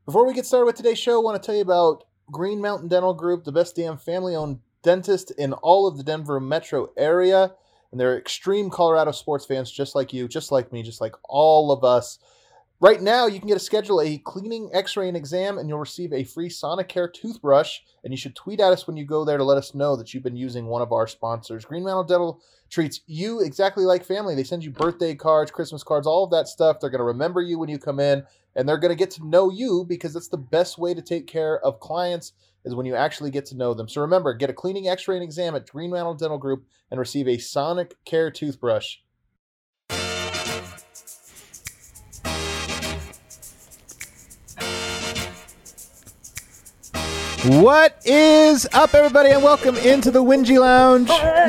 Before we get started with today's show, I want to tell you about Green Mountain Dental Group, the best damn family-owned dentist in all of the Denver metro area. And they're extreme Colorado sports fans just like you, just like me, just like all of us. Right now, you can schedule a cleaning, x-ray, and exam, and you'll receive a free Sonicare toothbrush. And you should tweet at us when you go there to let us know that you've been using one of our sponsors. Green Mountain Dental treats you exactly like family. They send you birthday cards, Christmas cards, all of that stuff. They're going to remember you when you come in, and they're going to get to know you because that's the best way to take care of clients is when you actually get to know them. So remember, get a cleaning, x-ray, and exam at Green Mountain Dental Group and receive a Sonicare toothbrush. What is up, everybody, and welcome into the Wingy Lounge.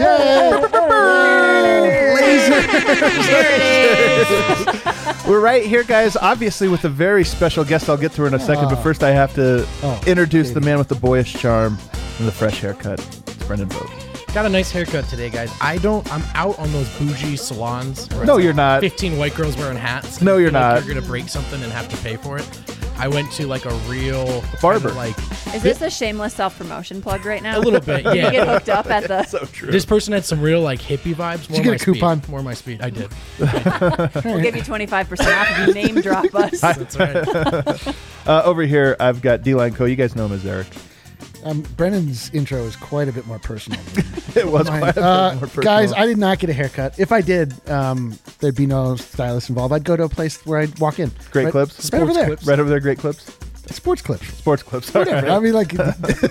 We're right here, guys, obviously with a very special guest I'll get to in a second, but first I have to introduce the man with the boyish charm and the fresh haircut. It's Brendan Vogt. Got a nice haircut today, guys. I'm out on those bougie salons. No, you're not. 15 white girls wearing hats. No, you're not. You're going to break something and have to pay for it. I went to like a real barber. Is this a shameless self-promotion plug right now? A little bit, yeah. You get hooked up at the... So true. This person had some real like hippie vibes. Did you get a coupon? More my speed. I did. We'll give you 25% off if you name drop us. That's right. Over here, I've got D-Line Co. You guys know him as Eric. Brendan's intro is quite a bit more personal. It was quite a bit more personal. Guys, I did not get a haircut. If I did, there'd be no stylist involved. I'd go to a place where I'd walk in. Great right, Clips? Right over there. Right over there, Great Clips? Sports Clips. Sports Clips. Whatever. Right. I mean, like...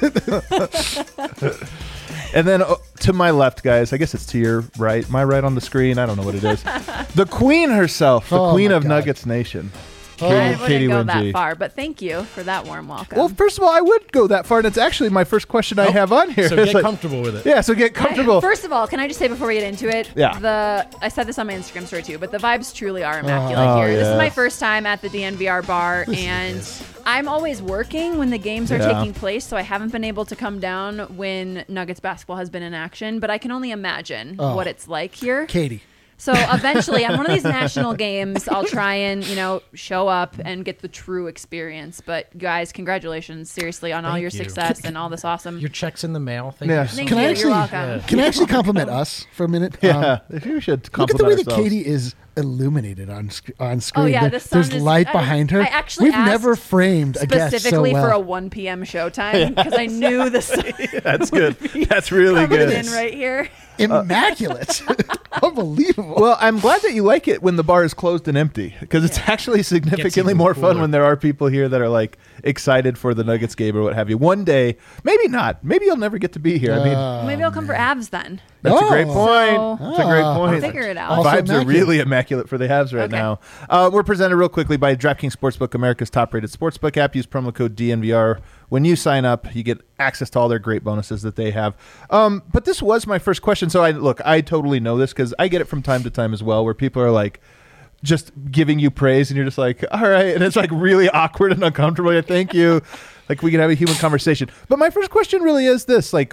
And then to my left, guys, I guess it's to your right. My right on the screen. I don't know what it is. The queen herself, the queen of Nuggets Nation. I wouldn't Katie go Wingy. that far, but thank you for that warm welcome. Well, first of all, I would go that far, and it's actually my first question I have on here. So It's get comfortable with it. Yeah, so get comfortable. First of all, can I just say before we get into it? Yeah. I said this on my Instagram story too, but the vibes truly are immaculate here. This yeah. is my first time at the DNVR bar, and I'm always working when the games are taking place, so I haven't been able to come down when Nuggets basketball has been in action, but I can only imagine what it's like here. Katie. So eventually, on one of these national games, I'll try and, show up and get the true experience. But guys, congratulations, seriously, on all your success and all this awesome. Your check's in the mail. Thank Yeah. you. Thank Can you. I You're actually, welcome. can I actually compliment us for a minute? Yeah, if you should Look at compliment the way that ourselves. Katie is illuminated on screen. Oh, yeah, the sun There's is- light behind her. I actually We've never asked framed a guest so Specifically well. for a 1 p.m. showtime because I knew the sun That's good. That's really coming good. in right here. Immaculate. Unbelievable. Well, I'm glad that you like it when the bar is closed and empty because it's actually significantly even more fun cooler. when there are people here that are like excited for the Nuggets game or what have you. One day, maybe not. Maybe you'll never get to be here. I mean, Maybe I'll come for Avs then. that's a great Oh. point. So- That's a great Ah. point. I'll figure it out. Also Vibes are immaculate. really immaculate for the Habs right Okay. now. We're presented real quickly by DraftKings Sportsbook, America's top-rated sportsbook app. Use promo code DNVR. When you sign up, you get access to all their great bonuses that they have. But this was my first question. So I totally know this because I get it from time to time as well where people are like just giving you praise and you're just like, all right. And it's like really awkward and uncomfortable. Like, thank you. Like we can have a human conversation. But my first question really is this, like,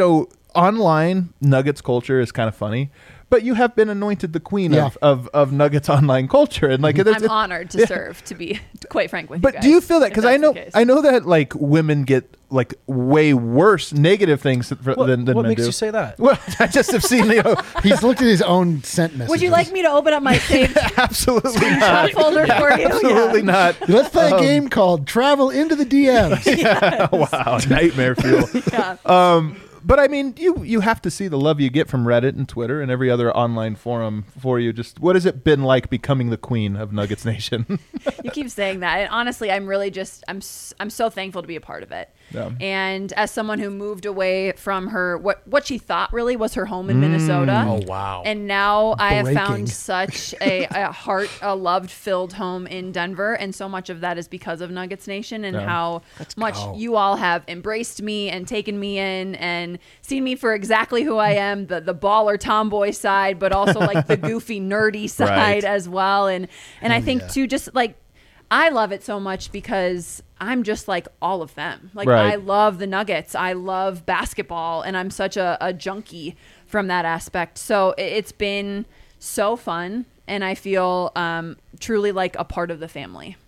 online Nuggets culture is kind of funny, but you have been anointed the queen of Nuggets online culture, and like I'm honored to serve, to be quite frank with you But guys, do you feel that? if Because that's the case. I know that like women get like way worse negative things than What men makes do. you say that? Well, I just have seen He's looked at his own sent messages. Would you like me to open up my saved absolutely not. folder for you? Absolutely not. Let's play a game called Travel into the DMs. Wow, nightmare fuel. Yeah. But I mean, you have to see the love you get from Reddit and Twitter and every other online forum for you. Just what has it been like becoming the queen of Nuggets Nation? You keep saying that, and honestly, I'm really I'm so thankful to be a part of it. Yeah. And as someone who moved away from her, what she thought really was her home in Minnesota. Oh, wow. And now I have Breaking. found such a love-filled home in Denver, and so much of that is because of Nuggets Nation and how much you all have embraced me and taken me in and seen me for exactly who I am, the baller tomboy side, but also like the goofy nerdy side Right. as well. And I think too, just like I love it so much because I'm just like all of them. Like Right. I love the Nuggets. I love basketball, and I'm such a junkie from that aspect. So it's been so fun, and I feel truly like a part of the family.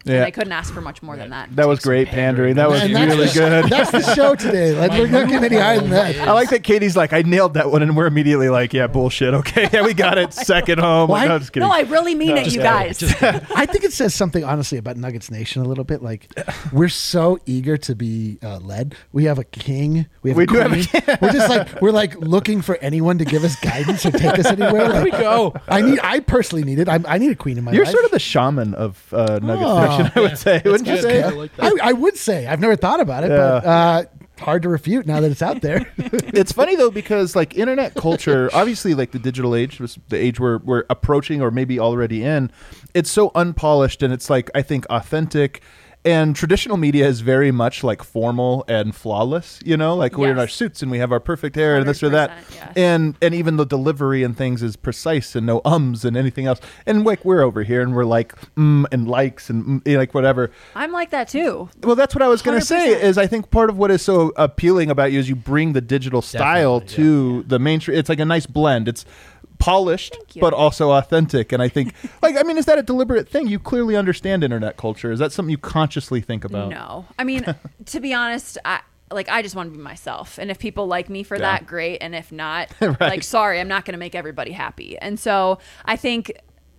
And I couldn't ask for much more than that. That was great pandering. That was really good. That's the show today. Like, we're not getting any higher than that. I like that Katie's like, I nailed that one, and we're immediately like, yeah, bullshit. Okay, yeah, we got it. Second home. Well, No, just kidding. No, I really mean it, you guys. I think it says something, honestly, about Nuggets Nation a little bit. Like, we're so eager to be led. We have a king. We have a do have a queen. king. We're just like, we're like looking for anyone to give us guidance or take us anywhere. Like, There we go. I personally need it. I need a queen in my You're life. sort of the shaman of Nuggets Nation, I would say. Wouldn't you say? I like that. I would say. I've never thought about it, but hard to refute now that it's out there. It's funny though, because like internet culture, obviously like the digital age was the age we're approaching or maybe already in. It's so unpolished, and it's like, I think, authentic. And traditional media is very much like formal and flawless, you know, like we're in our suits and we have our perfect hair and this or that. 100%, yes. And even the delivery and things is precise and no ums and anything else. And like we're over here and we're like and likes and like whatever. I'm like that too. Well, that's what I was going to say 100%. is I think part of what is so appealing about you is you bring the digital style to the mainstream. It's like a nice blend. It's polished, Thank you. but also authentic. And I think, like, I mean, is that a deliberate thing? You clearly understand internet culture. Is that something you consciously think about? No. I mean, to be honest, I just want to be myself. And if people like me for that, great. And if not, like, sorry, I'm not going to make everybody happy. And so I think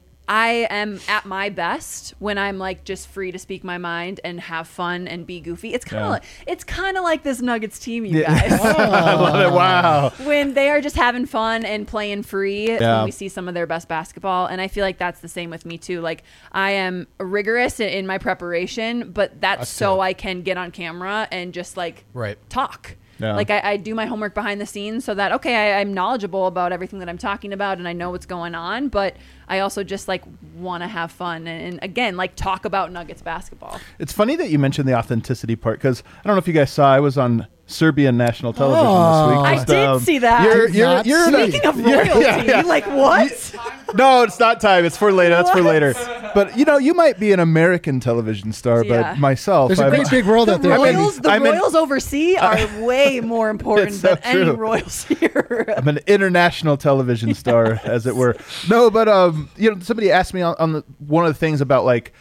I am at my best when I'm like just free to speak my mind and have fun and be goofy. It's kind of like this Nuggets team, you guys. I love it. Wow. When they are just having fun and playing free, when we see some of their best basketball. And I feel like that's the same with me too. Like, I am rigorous in my preparation, but that's so I can get on camera and just like talk. Yeah. Like, I do my homework behind the scenes so that, okay, I'm knowledgeable about everything that I'm talking about and I know what's going on, but I also just like want to have fun and again, like, talk about Nuggets basketball. It's funny that you mentioned the authenticity part, because I don't know if you guys saw, I was on Serbian national television this week. I did see that. You're Speaking of royalty, like, what? No, it's not time. It's for later. That's for later. But you know, you might be an American television star, but myself, there's a great big world out there. The Royals overseas are way more important than any Royals here. I'm an international television star, as it were. No, but you know, somebody asked me on one of the things about like,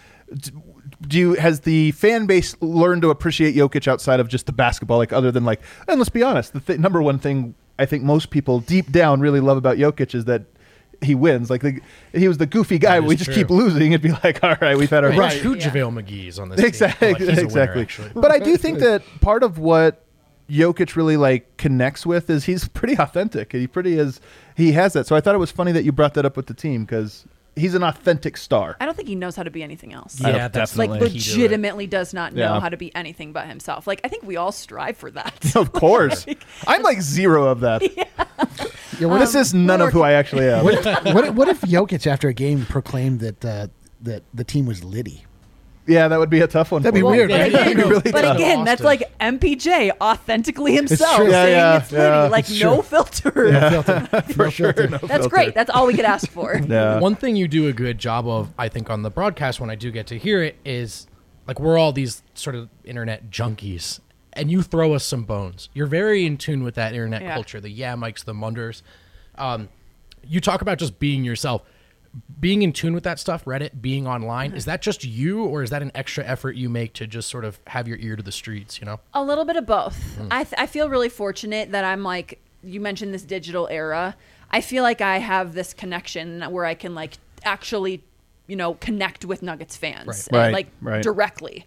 has the fan base learned to appreciate Jokic outside of just the basketball, like other than like, and let's be honest, the number one thing I think most people deep down really love about Jokic is that he wins. Like, he was the goofy guy, but we just keep losing and be like, all right, we've had our Right. Two JaVale McGee's on this exactly, team. Like, he's a winner, exactly. actually. But I do think that part of what Jokic really like connects with is he's pretty authentic. He has that. So I thought it was funny that you brought that up with the team, because he's an authentic star. I don't think he knows how to be anything else. Yeah, that's like, definitely legitimately does not know how to be anything but himself. Like, I think we all strive for that. Of course. I'm like zero of that. This is none of who I actually am. What if Jokic after a game proclaimed that the team was Liddy? Yeah, that would be a tough one. That'd be for weird. him. But That'd be really but tough. again, that's like MPJ authentically himself true. saying Yeah, it's Liddy, like It's no true. filter. For sure. No That's filter. great. That's all we could ask for. Yeah. One thing you do a good job of, I think, on the broadcast when I do get to hear it is, like, we're all these sort of internet junkies, and you throw us some bones. You're very in tune with that internet culture, the Mikes, the Munders. You talk about just being yourself. Being in tune with that stuff, Reddit, being online, is that just you, or is that an extra effort you make to just sort of have your ear to the streets, you know? A little bit of both. I feel really fortunate that I'm like, you mentioned this digital era. I feel like I have this connection where I can like actually, you know, connect with Nuggets fans directly.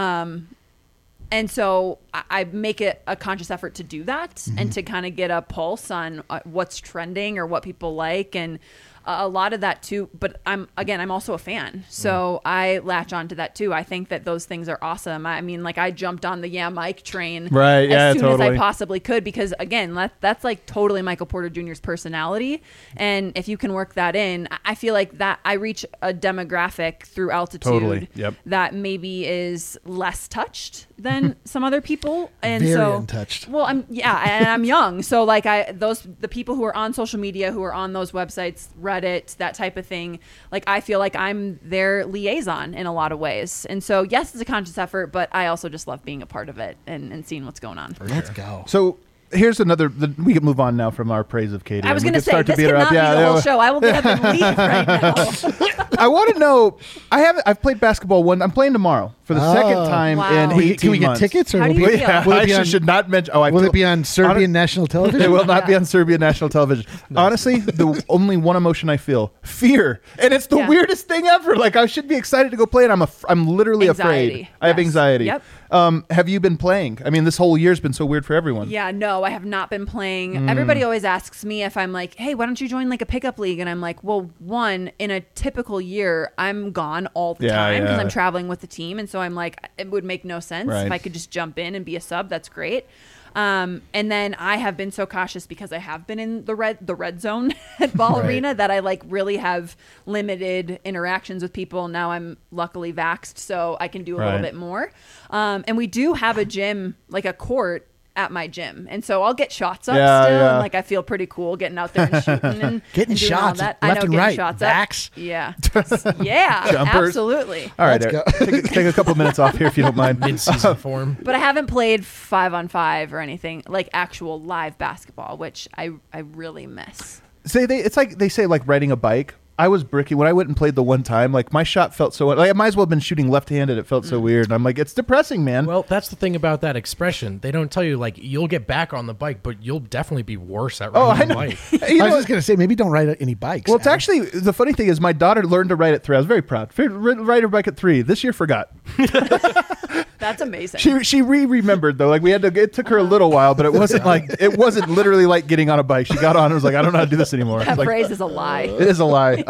And so I make it a conscious effort to do that and to kind of get a pulse on what's trending or what people like, and a lot of that too. But I'm also a fan, so I latch onto that too. I think that those things are awesome. I mean, like, I jumped on the Mike train as soon as I possibly could, because again, that's like totally Michael Porter Jr.'s personality. And if you can work that in, I feel like that I reach a demographic through Altitude that maybe is less touched than some other people. And Very so untouched. Well, I'm young, so like the people who are on social media, who are on those websites, Reddit, that type of thing, like, I feel like I'm their liaison in a lot of ways. And so yes, it's a conscious effort, but I also just love being a part of it and seeing what's going on. Let's go. So here's another. We can move on now from our praise of Katie. I was going to say, start this to beat her cannot up. be Yeah, the whole yeah. show. I will get up and leave right now. I want to know. I've played basketball I'm playing tomorrow for the second time Wow. in 18 Can we get months. tickets? Or How will do you it be- feel? Yeah, will it I be on- should not mention. Will it be on Serbian national television? It will not be Yeah. on Serbian national television. Honestly, the only one emotion I feel, fear, and it's the Yeah. weirdest thing ever. Like I should be excited to go play, and I'm literally Anxiety. afraid. I have Yes. anxiety. Yep. Have you been playing? I mean, this whole year's been so weird for everyone. Yeah, no, I have not been playing. Everybody always asks me if I'm like, hey, why don't you join like a pickup league? And I'm like, well, one, in a typical year, I'm gone all the Yeah, time because yeah. I'm traveling with the team. And so I'm like, it would make no sense Right. if I could just jump in and be a sub. That's great. And then I have been so cautious because I have been in the red zone at Ball Right. Arena that I like really have limited interactions with people. Now I'm luckily vaxxed, so I can do a little Right. bit more. And we do have a gym, like a court at my gym, and so I'll get shots up Yeah, still, yeah. and like I feel pretty cool getting out there and shooting and Getting and doing all shots that. left I know, and getting right. shots Vax. up. Yeah, yeah, Jumpers. absolutely. All right, Let's Eric, take a couple minutes off here if you don't mind. Mid-season form. But I haven't played 5-on-5 or anything like actual live basketball, which I really miss. It's like they say, like riding a bike. I was bricky when I went and played the one time. Like my shot felt so. Like I might as well have been shooting left-handed. It felt so weird. And I'm like, it's depressing, man. Well, that's the thing about that expression. They don't tell you like you'll get back on the bike, but you'll definitely be worse at riding I the know. bike. You I was know, just gonna say maybe don't ride any bikes. well, it's Adam. actually the funny thing is my daughter learned to ride at 3. I was very proud. Ride her bike at 3. This year forgot. That's amazing. She remembered though. Like we had to. It took her a little while, but it wasn't literally like getting on a bike. She got on and was like, I don't know how to do this anymore. that Like, phrase is a lie. it is a lie.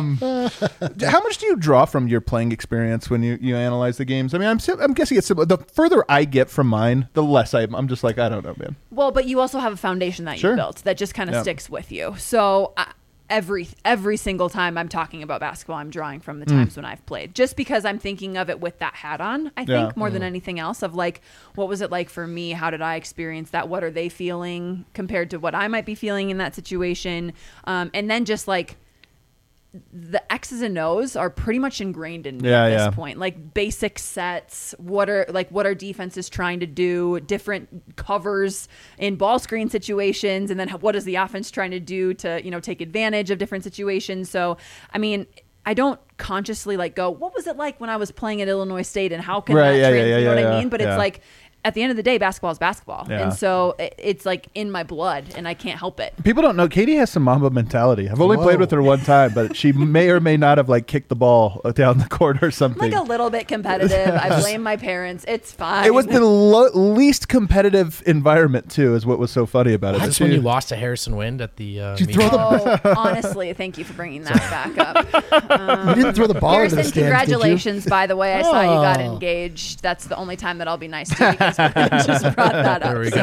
How much do you draw from your playing experience when you analyze the games? I mean, I'm guessing it's similar. The further I get from mine, the less I'm just like, I don't know, man. Well, but you also have a foundation that Sure. you built that just kind of Yeah. sticks with you. So every single time I'm talking about basketball, I'm drawing from the times when I've played, just because I'm thinking of it with that hat on. I think Yeah. more than anything else, of like, what was it like for me? How did I experience that? What are they feeling compared to what I might be feeling in that situation? And then just like, the X's and O's are pretty much ingrained in me at this point. Like basic sets, what are defenses trying to do, different covers in ball screen situations, and then what is the offense trying to do to, take advantage of different situations. So, I mean, I don't consciously like go, what was it like when I was playing at Illinois State and how can Right, that yeah, trans-" yeah, you know yeah, what I yeah, mean? But yeah. it's like, at the end of the day, basketball is basketball. Yeah. And so it's like in my blood and I can't help it. People don't know Katie has some Mamba mentality. I've only played with her one time, but she may or may not have like kicked the ball down the court or something. Like a little bit competitive. I blame my parents. It's fine. It was the least competitive environment too, is what was so funny about it. Is this when you lost to Harrison Wind at the Did you meeting? throw the Oh, honestly, thank you for bringing that back up. You didn't throw the ball into Harrison, the stands, did you? congratulations, by the way. I saw you got Oh. engaged. That's the only time that I'll be nice to you because I just brought that up. There we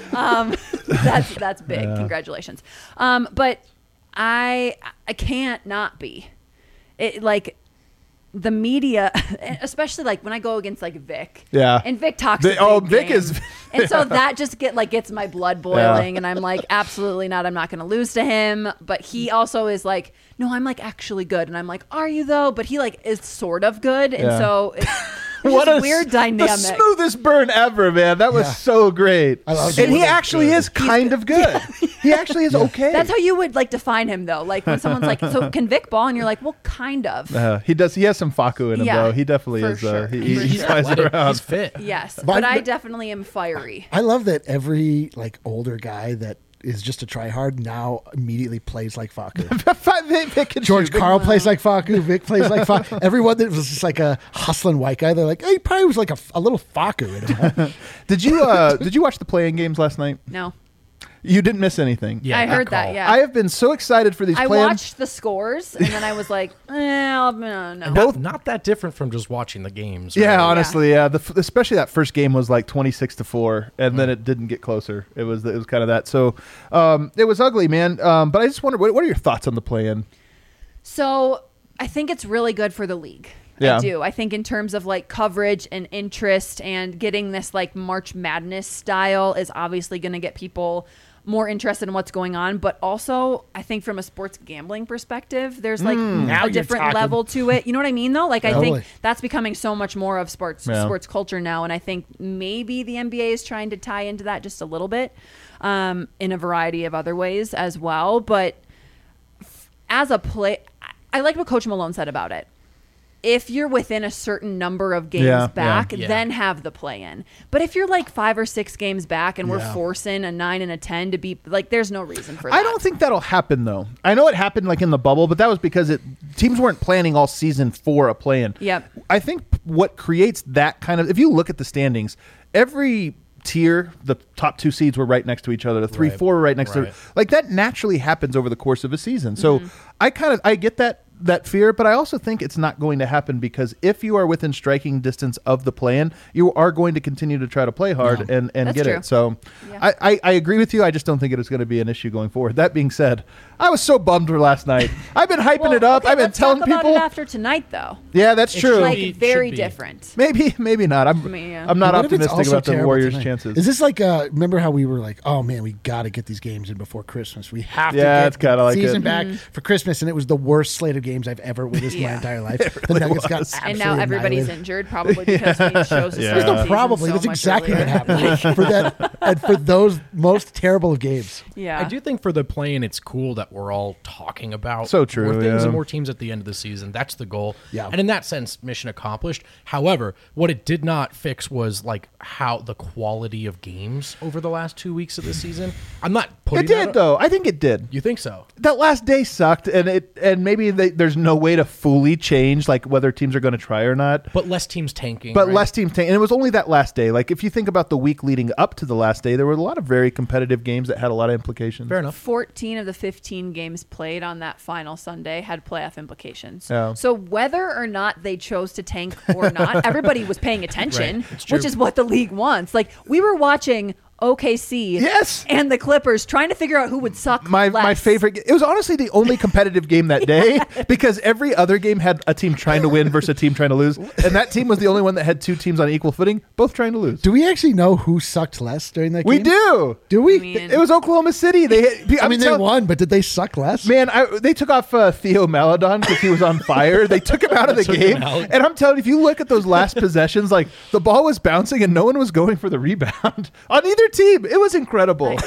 So that's big. Congratulations. But I can't not be. It like the media, especially like when I go against like Vic. Yeah. And Vic talks. Vic- a big oh, Vic game. is- And so that just gets my blood boiling, and I'm like, absolutely not. I'm not going to lose to him. But he also is like, no, I'm like actually good, and I'm like, are you though? But he like is sort of good, and Yeah. so it's just weird dynamic. The smoothest burn ever, man. That was Yeah. so great. I love and he it. actually is kind of good. He actually is okay. That's how you would like define him, though. Like when someone's like, "So can Vic ball?" and you're like, "Well, kind of." He does. He has some Faku in him, Yeah, though. He definitely for is. sure. He For sure. flies around. He's fit. Yes, But but I- I definitely am fiery. I love that every like older guy that is just a tryhard now immediately plays like Faku. Vic can George shoot. Carl plays like Faku. Vic plays like Faku. Everyone that was just like a hustling white guy, they're like, hey, he probably was like a little Faku in him. Huh? Did you watch the playing games last night? No, You didn't miss anything. Yeah, I heard call. that. Yeah, I have been so excited for these I play-ins. watched the scores, and then I was like, no. Not that different from just watching the games. Yeah, right? honestly, yeah. Especially that first game was like 26-4, and then it didn't get closer. It was kind of that. So it was ugly, man. But I just wonder, what are your thoughts on the play-in? So I think it's really good for the league. Yeah. I do. I think in terms of like coverage and interest and getting this like March Madness style is obviously going to get people more interested in what's going on. But also, I think from a sports gambling perspective, there's like a different level to it. You know what I mean, though? Like, I think that's becoming so much more of sports culture now. And I think maybe the NBA is trying to tie into that just a little bit in a variety of other ways as well. But as a play, I like what Coach Malone said about it. If you're within a certain number of games back, then have the play-in. But if you're like 5 or 6 games back and we're forcing a 9 and a 10 to be like, there's no reason for that. I don't think that'll happen though. I know it happened like in the bubble, but that was because teams weren't planning all season for a play-in. Yep. I think what creates that kind of, if you look at the standings, every tier, the top 2 seeds were right next to each other. The 3, 4 were right next to, like that naturally happens over the course of a season. So I get that fear, but I also think it's not going to happen because if you are within striking distance of the play-in, you are going to continue to try to play hard and get true. it. So I agree with you. I just don't think it is going to be an issue going forward. That being said, I was so bummed for last night. I've been hyping it up. Okay, I've been telling talk people about it after tonight, though. Yeah, that's true. Like very different. Maybe not. I'm not optimistic about the Warriors' chances. Is this like remember how we were like, oh man, we got to get these games in before Christmas. We have to it's get kinda like season it. back for Christmas, and it was the worst slate of games I've ever witnessed in my entire life. The Nuggets got absolutely and now everybody's annihilated. injured, probably because we chose to start There's the no season probably. so That's much exactly earlier. what happened for that and for those most terrible of games. Yeah, I do think for the play-in, it's cool that we're all talking about So true, more things yeah. and more teams at the end of the season. That's the goal. Yeah. And in that sense, mission accomplished. However, what it did not fix was like how the quality of games over the last 2 weeks of the season. I'm not putting It did that though. I think it did. You think so? That last day sucked, and maybe there's no way to fully change like whether teams are going to try or not. But less teams tanking. But right? less teams tanking, and it was only that last day. Like if you think about the week leading up to the last day, there were a lot of very competitive games that had a lot of implications. Fair enough. 14 of the 15 games played on that final Sunday had playoff implications. Yeah. So whether or not they chose to tank or not, everybody was paying attention, Right. It's true. which is what the league wants. Like we were watching OKC and the Clippers trying to figure out who would suck My less. favorite. It was honestly the only competitive game that day because every other game had a team trying to win versus a team trying to lose, and that team was the only one that had 2 teams on equal footing, both trying to lose. Do we actually know who sucked less during that game? We do. Do we? I mean- It was Oklahoma City. They won, but did they suck less? Man, they took off Theo Maledon because he was on fire. They took him out of the game. And I'm telling you, if you look at those last possessions, like the ball was bouncing and no one was going for the rebound on either team. It was incredible.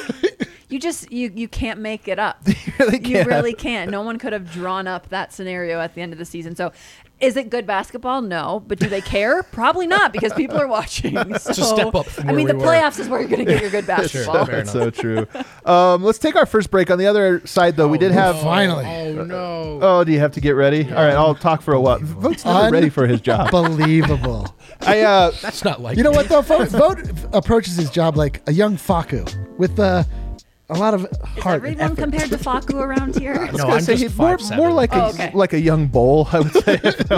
You just you can't make it up. really You can't. really can't. No one could have drawn up that scenario at the end of the season. So is it good basketball? No. But do they care? Probably not because people are watching. So, a step up from I mean, where the we were. playoffs is where you're going to get your good basketball. Fair That's so true. Let's take our first break. On the other side, though, we did have... Finally. Oh no. Oh, do you have to get ready? All right, I'll talk for a while. Vote's never ready for his job. Unbelievable. That's not like You know what though? Vote approaches his job like a young Faku with a lot of Is heart and everyone effort. compared to Faku around here? I was No, gonna I'm say just he's more 5'7". like okay. like a young bull, I would say.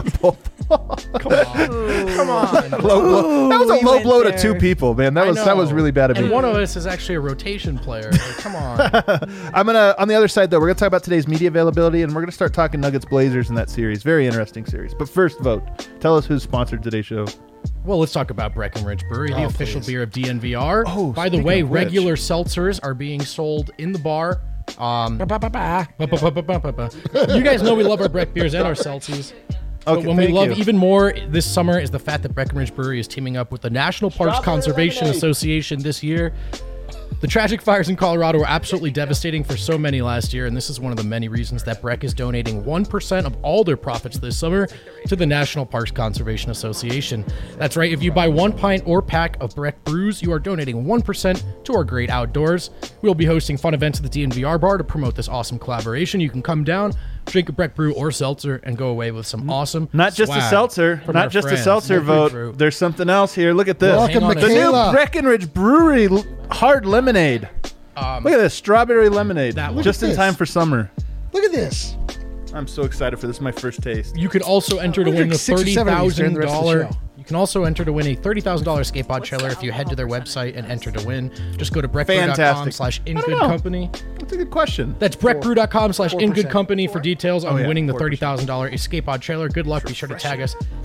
Come on. Low blow. That was a we low went blow to there. 2 people, man. That was really bad of me. And one of us is actually a rotation player. Like, come on. I'm gonna on the other side though. We're gonna talk about today's media availability, and we're gonna start talking Nuggets Blazers in that series. Very interesting series. But first, vote. Tell us who's sponsored today's show. Well, let's talk about Breckenridge Brewery, the official please. beer of DNVR. Oh, by the speaking way, of which. regular seltzers are being sold in the bar. Ba-ba-ba-ba. You guys know we love our Breck beers and our seltzies. But Okay, when we thank love you. even more this summer is the fact that Breckenridge Brewery is teaming up with the National Parks Conservation Association this year. The tragic fires in Colorado were absolutely devastating for so many last year, and this is one of the many reasons that Breck is donating 1% of all their profits this summer to the National Parks Conservation Association. That's right, if you buy 1 pint or pack of Breck brews, you are donating 1% to our great outdoors. We'll be hosting fun events at the DNVR bar to promote this awesome collaboration. You can come down, drink a Breck brew or seltzer, and go away with some awesome Not just a swag seltzer. from Not our just a friends. seltzer Breck vote. Brew. There's something else here. Look at this. Welcome, Hang on a The new Michaela. Breckenridge Brewery hard lemonade. Look at this strawberry lemonade. That one. Just in Look at time this. for summer. Look at this. I'm so excited for this. My first taste. You could also enter to We'll win a drink 6 or 7 of these during the rest of the $30,000. show. You can also enter to win a $30,000 skateboard chiller if you head to their website and enter to win. Just go to Fantastic. breckbrew.com/ingoodcompany. That's a good question. That's breckbrew.com/ingoodcompany for details on yeah, winning the 4%. $30,000 skateboard trailer. Good luck. Be sure to tag us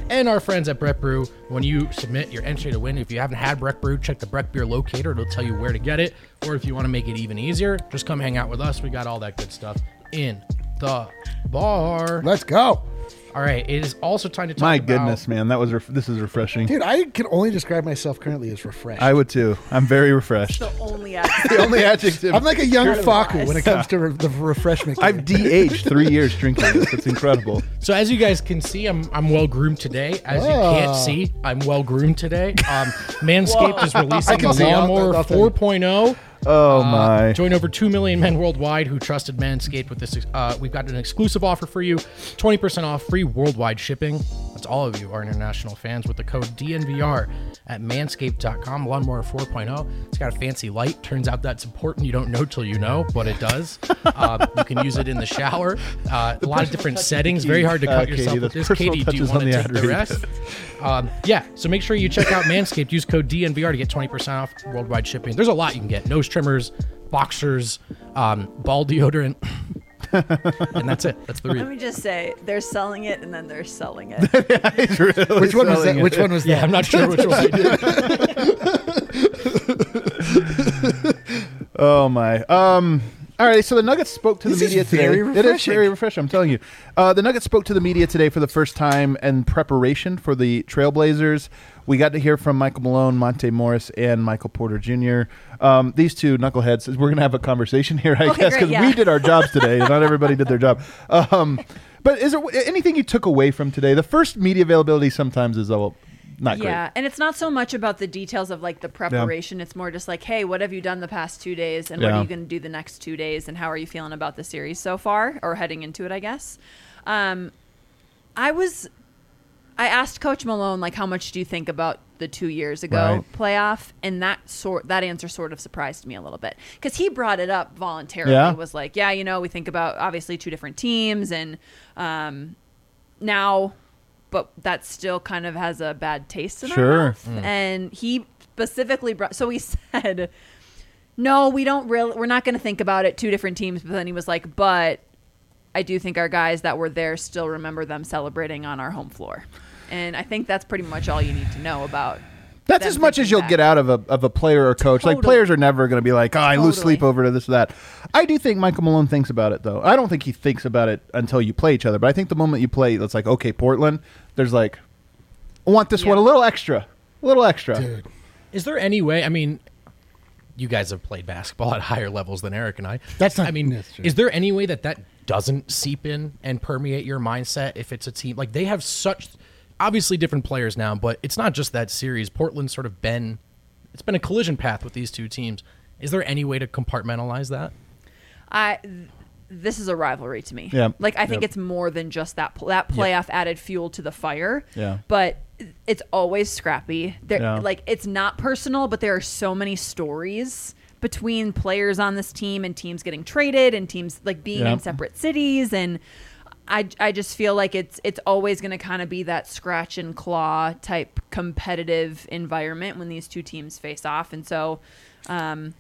and our friends at Breck Brew. When you submit your entry to win, if you haven't had Breck Brew, check the Breck Beer locator. It'll tell you where to get it. Or if you want to make it even easier, just come hang out with us. We got all that good stuff in the bar. Let's go. All right, it is also time to talk My about... goodness, man, this is refreshing. Dude, I can only describe myself currently as refreshed. I would too. I'm very refreshed. The only adjective. The only adjective. I'm like a young Faku when it comes to the refreshment. I've de-aged 3 years drinking this. It's incredible. So as you guys can see, I'm well groomed today. As you can't see, I'm well groomed today. Manscaped is releasing the Lawnmower 4.0. Oh my. Join over 2 million men worldwide who trusted Manscaped with this. We've got an exclusive offer for you. 20% off free worldwide shipping. That's all of you, our international fans, with the code DNVR at manscaped.com. Lawnmower 4.0. It's got a fancy light. Turns out that's important. You don't know till you know, but it does. You can use it in the shower. A lot of different settings. Very hard to cut yourself with this. Katie, do you want to take the rest? Yeah, so make sure you check out Manscaped. Use code DNVR to get 20% off worldwide shipping. There's a lot you can get. Nose trimmers, boxers, ball deodorant. And that's it. That's the Let reason. me just say, they're selling it and then they're selling it. Which one was that? Which one was that? Yeah, I'm not sure which one I did. Oh my. All right, so the Nuggets spoke to the media today. It is very refreshing, I'm telling you. The Nuggets spoke to the media today for the first time in preparation for the Trailblazers. We got to hear from Michael Malone, Monte Morris, and Michael Porter Jr. These two knuckleheads. We're going to have a conversation here, I guess, because we did our jobs today. Not everybody did their job. But is there anything you took away from today? The first media availability sometimes is not great. Yeah, and it's not so much about the details of like the preparation. Yeah. It's more just like, hey, what have you done the past 2 days, and what are you going to do the next 2 days, and how are you feeling about the series so far, or heading into it, I guess. I asked Coach Malone, like, how much do you think about the 2 years ago playoff? And that answer sort of surprised me a little bit, because he brought it up voluntarily. It was like, we think about obviously two different teams, and now, but that still kind of has a bad taste in our mouth. And he specifically so he said, no, we're not going to think about it, two different teams. But then he was like, but I do think our guys that were there still remember them celebrating on our home floor. And I think that's pretty much all you need to know about. That's as much as you'll get out of a player or coach. Totally. Like, players are never going to be like, I lose sleep over to this or that. I do think Michael Malone thinks about it, though. I don't think he thinks about it until you play each other. But I think the moment you play, it's like, okay, Portland, there's like, I want this one a little extra. A little extra. Dude. Is there any way, I mean, you guys have played basketball at higher levels than Eric and I. That's is there any way that doesn't seep in and permeate your mindset if it's a team? Like, they have such... obviously different players now, but it's not just that series. Portland's sort of it's been a collision path with these two teams. Is there any way to compartmentalize that? This is a rivalry to me. Yeah. Like, I think it's more than just that playoff added fuel to the fire. Yeah. But it's always scrappy. Like, it's not personal, but there are so many stories between players on this team and teams getting traded and teams like being in separate cities, and I just feel like it's always going to kind of be that scratch and claw type competitive environment when these two teams face off. And so, I'm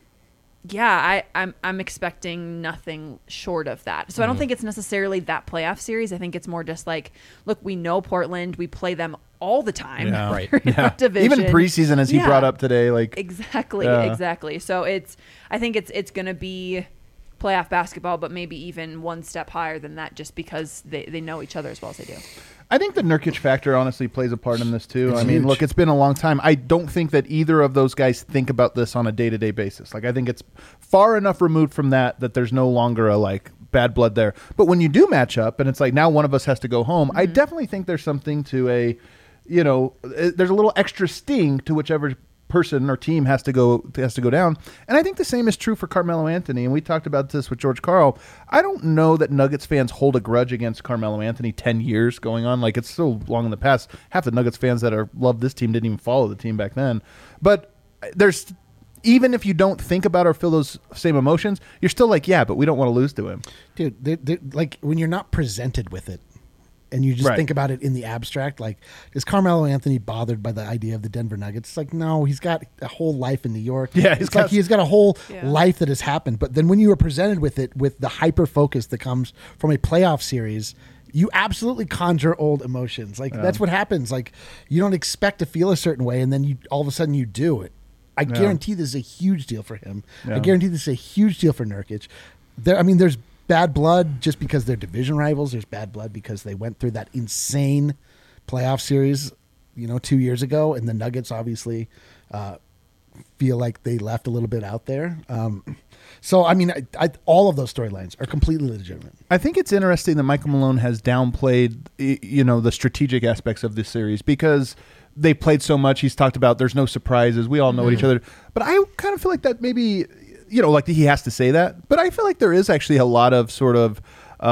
expecting nothing short of that. So I don't think it's necessarily that playoff series. I think it's more just like, look, we know Portland, we play them all the time. Yeah. Right. Division. Even preseason, as he brought up today, like exactly. So I think it's going to be playoff basketball, but maybe even one step higher than that, just because they know each other as well as they do. I think the Nurkic factor honestly plays a part in this too. It's I mean, huge. look, it's been a long time. I don't think that either of those guys think about this on a day-to-day basis. Like, I think it's far enough removed from that there's no longer a like bad blood there. But when you do match up and it's like now one of us has to go home, I definitely think there's something to there's a little extra sting to whichever person or team has to go down. And I think the same is true for Carmelo Anthony, and we talked about this with George Karl. I don't know that Nuggets fans hold a grudge against Carmelo Anthony 10 years going on. Like, it's so long in the past. Half the Nuggets fans that love this team didn't even follow the team back then. But there's, even if you don't think about or feel those same emotions, you're still like, yeah, but we don't want to lose to him. Dude, like, when you're not presented with it, and you just think about it in the abstract, like, is Carmelo Anthony bothered by the idea of the Denver Nuggets? It's like, no, he's got a whole life in New York. Yeah, he's got a whole life that has happened. But then when you are presented with it, with the hyper focus that comes from a playoff series, You absolutely conjure old emotions. Like that's what happens. Like you don't expect to feel a certain way, and then you all of a sudden you do it. I guarantee this is a huge deal for him. I guarantee this is a huge deal for Nurkic. There's bad blood just because they're division rivals. There's bad blood because they went through that insane playoff series, 2 years ago, and the Nuggets obviously feel like they left a little bit out there. So, all of those storylines are completely legitimate. I think it's interesting that Michael Malone has downplayed, the strategic aspects of this series because they played so much. He's talked about there's no surprises. We all know each other. But I kind of feel like that maybe, like he has to say that. But I feel like there is actually a lot of sort of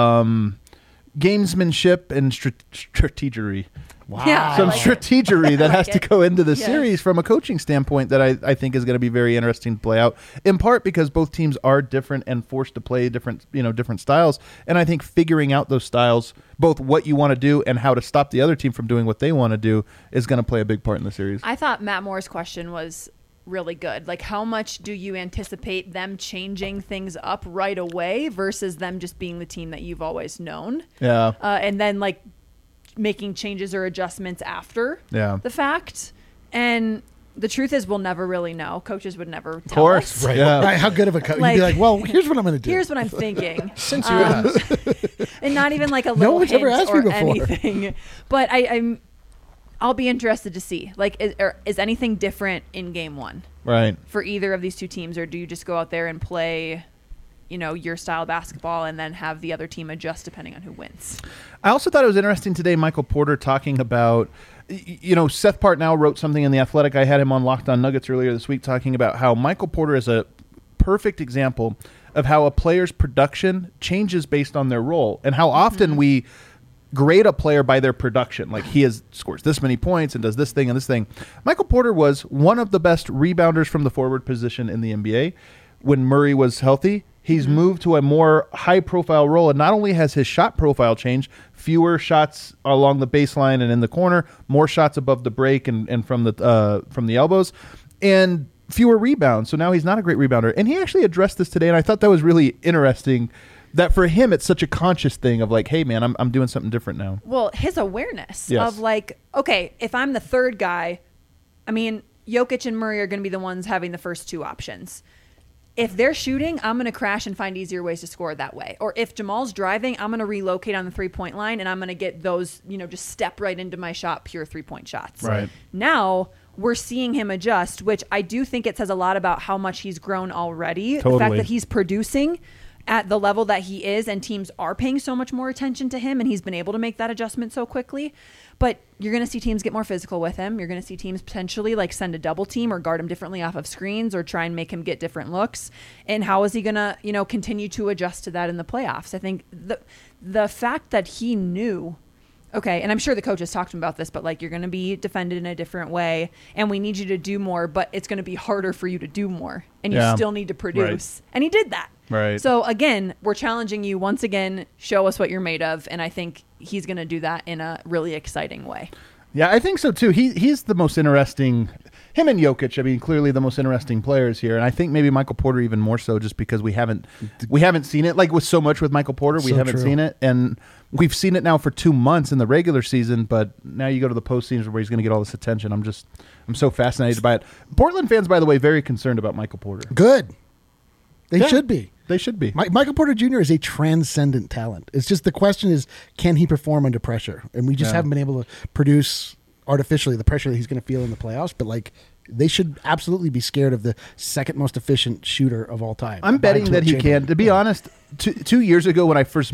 gamesmanship and strategery. Wow. Yeah, Some strategery that has to go into the Yes. series from a coaching standpoint that I think is going to be very interesting to play out, in part because both teams are different and forced to play different styles. And I think figuring out those styles, both what you want to do and how to stop the other team from doing what they want to do, is going to play a big part in the series. I thought Matt Moore's question was really good. Like, how much do you anticipate them changing things up right away versus them just being the team that you've always known? Yeah. And then, like, making changes or adjustments after the fact. And the truth is we'll never really know. Coaches would never tell us. Right. Yeah. Right. How good of a coach? You'd be like, well, here's what I'm going to do. Here's what I'm thinking. Since you asked. And not even like a No little one's hint ever asked or me before. anything. But I'll be interested to see. Like, is anything different in game one Right. for either of these two teams? Or do you just go out there and play, your style of basketball and then have the other team adjust depending on who wins? I also thought it was interesting today, Michael Porter talking about, Seth Partnow wrote something in The Athletic. I had him on Locked On Nuggets earlier this week talking about how Michael Porter is a perfect example of how a player's production changes based on their role and how often we grade a player by their production. Like scores this many points and does this thing and this thing. Michael Porter was one of the best rebounders from the forward position in the NBA when Murray was healthy. He's moved to a more high-profile role, and not only has his shot profile changed, fewer shots along the baseline and in the corner, more shots above the break and from the elbows, and fewer rebounds. So now he's not a great rebounder. And he actually addressed this today, and I thought that was really interesting that for him it's such a conscious thing of like, hey, man, I'm doing something different now. Well, his awareness Yes. of like, okay, if I'm the third guy, Jokic and Murray are going to be the ones having the first two options. If they're shooting, I'm going to crash and find easier ways to score that way. Or if Jamal's driving, I'm going to relocate on the three-point line and I'm going to get those, just step right into my shot, pure three-point shots. Right. Now we're seeing him adjust, which I do think it says a lot about how much he's grown already. Totally. The fact that he's producing at the level that he is and teams are paying so much more attention to him and he's been able to make that adjustment so quickly. But you're going to see teams get more physical with him. You're going to see teams potentially like send a double team or guard him differently off of screens or try and make him get different looks. And how is he going to, continue to adjust to that in the playoffs? I think the fact that he knew, okay, and I'm sure the coaches talked to him about this, but like you're going to be defended in a different way and we need you to do more, but it's going to be harder for you to do more and you still need to produce. Right. And he did that. Right. So again, we're challenging you once again, show us what you're made of. And I think he's going to do that in a really exciting way. Yeah, I think so too. He's the most interesting. Him and Jokic, clearly the most interesting players here, and I think maybe Michael Porter even more so, just because we haven't seen it like with so much with Michael Porter. We haven't seen it, and we've seen it now for 2 months in the regular season. But now you go to the postseason where he's going to get all this attention. I'm so fascinated by it. Portland fans, by the way, very concerned about Michael Porter. Good. They should be. They should be. Michael Porter Jr. is a transcendent talent. It's just the question is, can he perform under pressure? And we just haven't been able to produce artificially the pressure that he's going to feel in the playoffs. But like, they should absolutely be scared of the second most efficient shooter of all time. I'm betting that he can. To be honest, 2 years ago when I first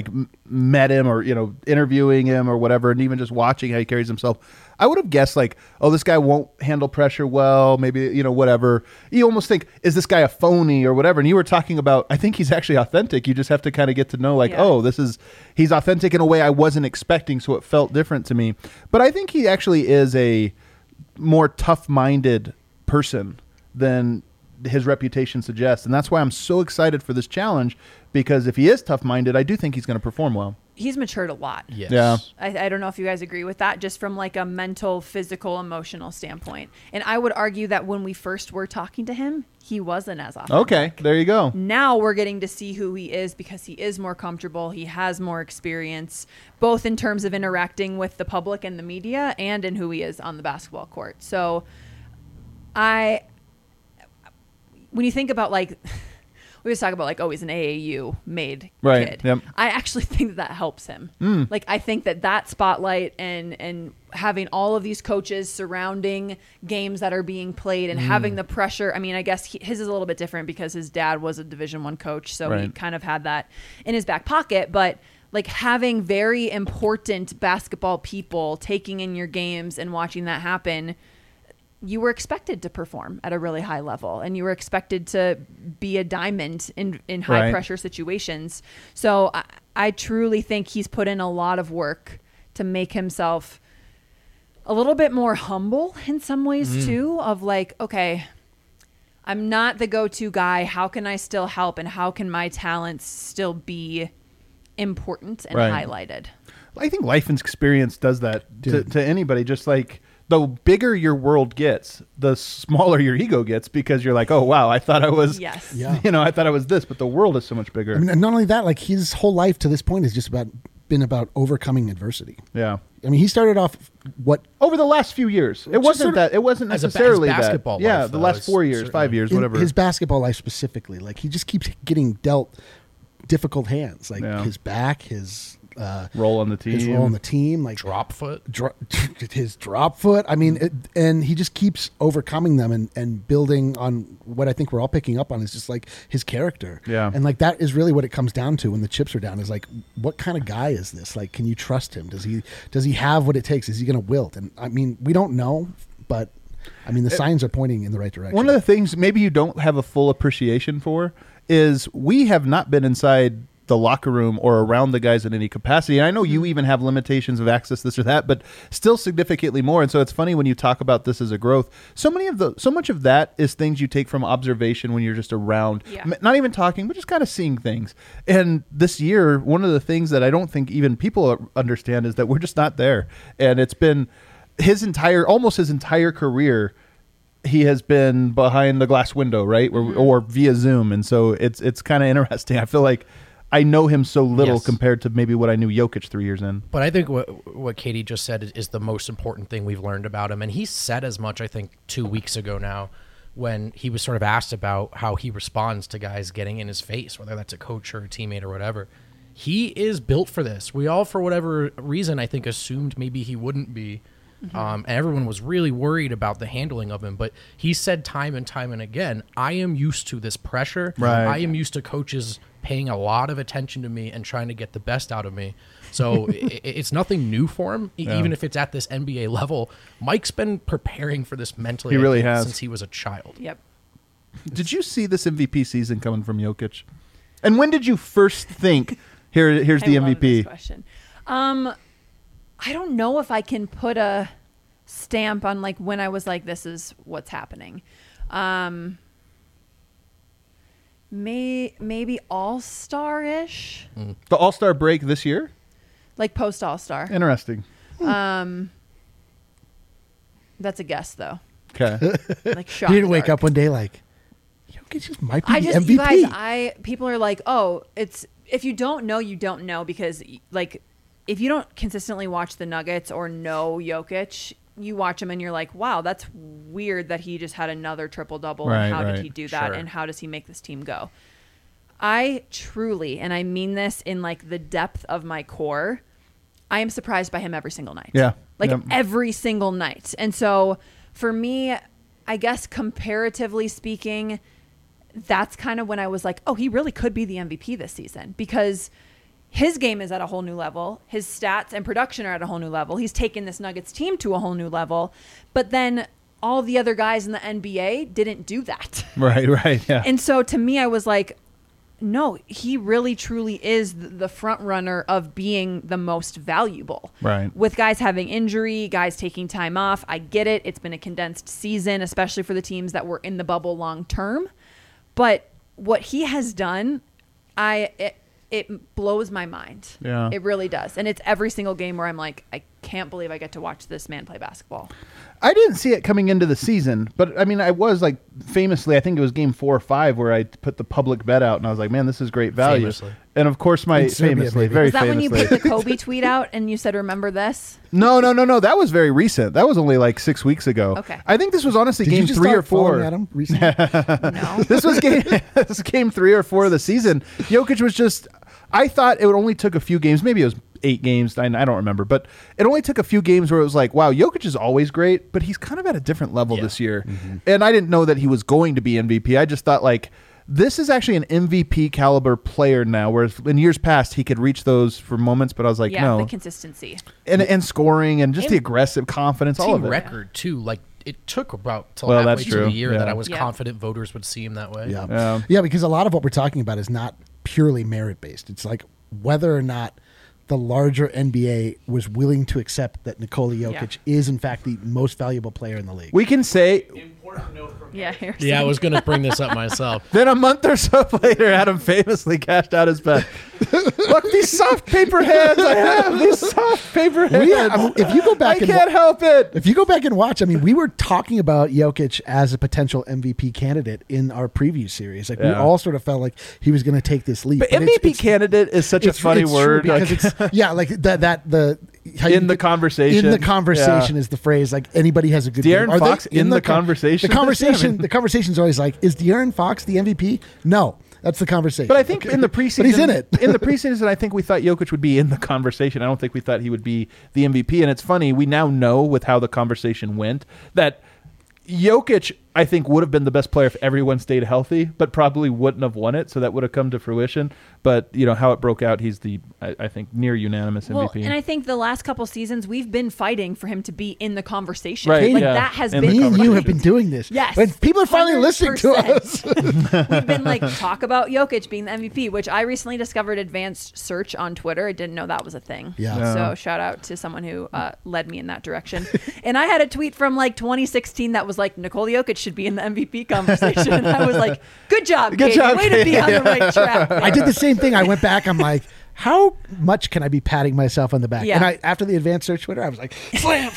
met him or interviewing him or whatever, and even just watching how he carries himself, I would have guessed like, oh, this guy won't handle pressure well. Maybe whatever. You almost think, is this guy a phony or whatever? And you were talking about, I think he's actually authentic. You just have to kind of get to know oh, he's authentic in a way I wasn't expecting, so it felt different to me. But I think he actually is a more tough-minded person than his reputation suggests, and that's why I'm so excited for this challenge, because if he is tough-minded, I do think he's going to perform well. he's matured a lot. Yes. Yeah. I don't know if you guys agree with that, just from like a mental, physical, emotional standpoint. And I would argue that when we first were talking to him, he wasn't as authentic. Okay, there you go. Now we're getting to see who he is because he is more comfortable. He has more experience, both in terms of interacting with the public and the media and in who he is on the basketball court. So when you think about like, we always talk about like, oh, he's an AAU made kid. Yep. I actually think that helps him. Like, I think that spotlight and having all of these coaches surrounding games that are being played and having the pressure. I mean, I guess his is a little bit different because his dad was a Division I coach, so he kind of had that in his back pocket. But like having very important basketball people taking in your games and watching that happen, you were expected to perform at a really high level, and you were expected to be a diamond in high pressure situations. So I truly think he's put in a lot of work to make himself a little bit more humble in some ways too, of like, okay, I'm not the go-to guy. How can I still help? And how can my talents still be important and highlighted? I think life and experience does that to anybody. Just like the bigger your world gets, the smaller your ego gets, because you're like, oh, wow, I thought I was, I thought I was this, but the world is so much bigger. I mean, and not only that, like his whole life to this point has just been about overcoming adversity. Yeah. I mean, he started off over the last few years. It wasn't necessarily basketball that. Yeah, life, the last 4 years, certainly. 5 years, whatever. His basketball life specifically, like he just keeps getting dealt difficult hands, like his back, his role on the team, like drop foot, his drop foot. I mean, and he just keeps overcoming them and building on what I think we're all picking up on is just like his character. Yeah. And like that is really what it comes down to when the chips are down, is like, what kind of guy is this? Like, can you trust him? Does he have what it takes? Is he going to wilt? And I mean, we don't know, but I mean, the signs are pointing in the right direction. One of the things maybe you don't have a full appreciation for is we have not been inside the locker room or around the guys in any capacity. And I know you even have limitations of access, this or that, but still significantly more. And so it's funny when you talk about this as a growth. So much of that is things you take from observation when you're just around, not even talking, but just kind of seeing things. And this year, one of the things that I don't think even people understand is that we're just not there. And it's been almost his entire career, he has been behind the glass window, right? Or via Zoom. And so it's kind of interesting. I feel like I know him so little compared to maybe what I knew Jokic 3 years in. But I think what Katie just said is the most important thing we've learned about him. And he said as much, I think, 2 weeks ago now, when he was sort of asked about how he responds to guys getting in his face, whether that's a coach or a teammate or whatever. He is built for this. We all, for whatever reason, I think, assumed maybe he wouldn't be. And everyone was really worried about the handling of him. But he said time and time and again, I am used to this pressure. Right. I am used to coaches paying a lot of attention to me and trying to get the best out of me. So it's nothing new for him, even if it's at this NBA level. Mike's been preparing for this mentally. He really has. Since he was a child. Yep. Did you see this MVP season coming from Jokic? And when did you first think, here's the I love MVP? this question. I don't know if I can put a stamp on like when I was like, this is what's happening. Maybe All-Star-ish. The All-Star break this year? Like post All-Star. Interesting. That's a guess though. Okay. Like shot He didn't wake dark. up one day like, Jokic just might be the MVP. You guys, people are like, oh, it's, if you don't know, you don't know, because like if you don't consistently watch the Nuggets or know Jokic, you watch him and you're like, wow, that's weird that he just had another triple-double. Right, and how right. did he do that? Sure. And how does he make this team go? I truly, and I mean this in like the depth of my core, I am surprised by him every single night. Yeah. Like Yep. every single night. And so for me, I guess comparatively speaking, that's kind of when I was like, oh, he really could be the MVP this season, because his game is at a whole new level. His stats and production are at a whole new level. He's taken this Nuggets team to a whole new level. But then all the other guys in the NBA didn't do that. Right, yeah. And so to me, I was like, no, he really truly is the front runner of being the most valuable. Right. With guys having injury, guys taking time off. I get it. It's been a condensed season, especially for the teams that were in the bubble long term. But what he has done, it blows my mind. Yeah. It really does. And it's every single game where I'm like, I can't believe I get to watch this man play basketball. I didn't see it coming into the season, but I mean, I was like famously, I think it was game 4 or 5 where I put the public bet out and I was like, man, this is great value. Famously. And of course, very Was that famously. when you put the Kobe tweet out and you said, remember this? No. That was very recent. That was only like 6 weeks ago. Okay. I think this was honestly Did game you just 3 or start following 4. Adam recently? No. This was game 3 or 4 of the season. Jokic was just, I thought it would only took a few games. Maybe it was 8 games. I don't remember, but it only took a few games where it was like, wow, Jokic is always great, but he's kind of at a different level this year. Mm-hmm. And I didn't know that he was going to be MVP. I just thought like, this is actually an MVP caliber player now, whereas in years past he could reach those for moments, but I was like, no. the consistency. And scoring and just the aggressive confidence, all of it. Record too, like it took about till Well, halfway that's through true. the year Yeah. that I was Yeah. confident voters would see him that way. Yeah, because a lot of what we're talking about is not purely merit based. It's like whether or not the larger NBA was willing to accept that Nikola Jokic is in fact the most valuable player in the league. We can say Yeah, Yeah, I was going to bring this up myself. then a month or so later, Adam famously cashed out his bet. Look, these soft paper hands I have. These soft paper hands. If you go back I and can't help it. If you go back and watch, I mean, we were talking about Jokic as a potential MVP candidate in our preview series. Like we Yeah. all sort of felt like he was going to take this leap. But it's- MVP it's- candidate is such a funny it's word. true because Like, it's like in the conversation. In the conversation is the phrase. Like anybody has a good De'Aaron game. Are they Fox in the conversation? The conversation. The conversation's always like, is De'Aaron Fox the MVP? No, that's the conversation. But I think in the preseason, but he's in it. in the preseason, I think we thought Jokic would be in the conversation. I don't think we thought he would be the MVP. And it's funny, we now know with how the conversation went that Jokic, I think, would have been the best player if everyone stayed healthy, but probably wouldn't have won it. So that would have come to fruition. But you know how it broke out. He's the, I think, near unanimous Well, MVP. and I think the last couple seasons we've been fighting for him to be in the conversation. Right, Like yeah. that has In been the Me and you have conversation. been doing this. Yes. But people are finally listening to 100%. us. We've been like, talk about Jokic being the MVP, which I recently discovered advanced search on Twitter. I didn't know that was a thing. Yeah. So shout out to someone who led me in that direction. And I had a tweet from like 2016 that was like, Nikola Jokic should be in the MVP conversation. And I was like, good job, Good Katie. job, Way to be on the right track. I did the same thing. I went back. I'm like, how much can I be patting myself on the back? Yeah. And after the advanced search Twitter, I was like, slam.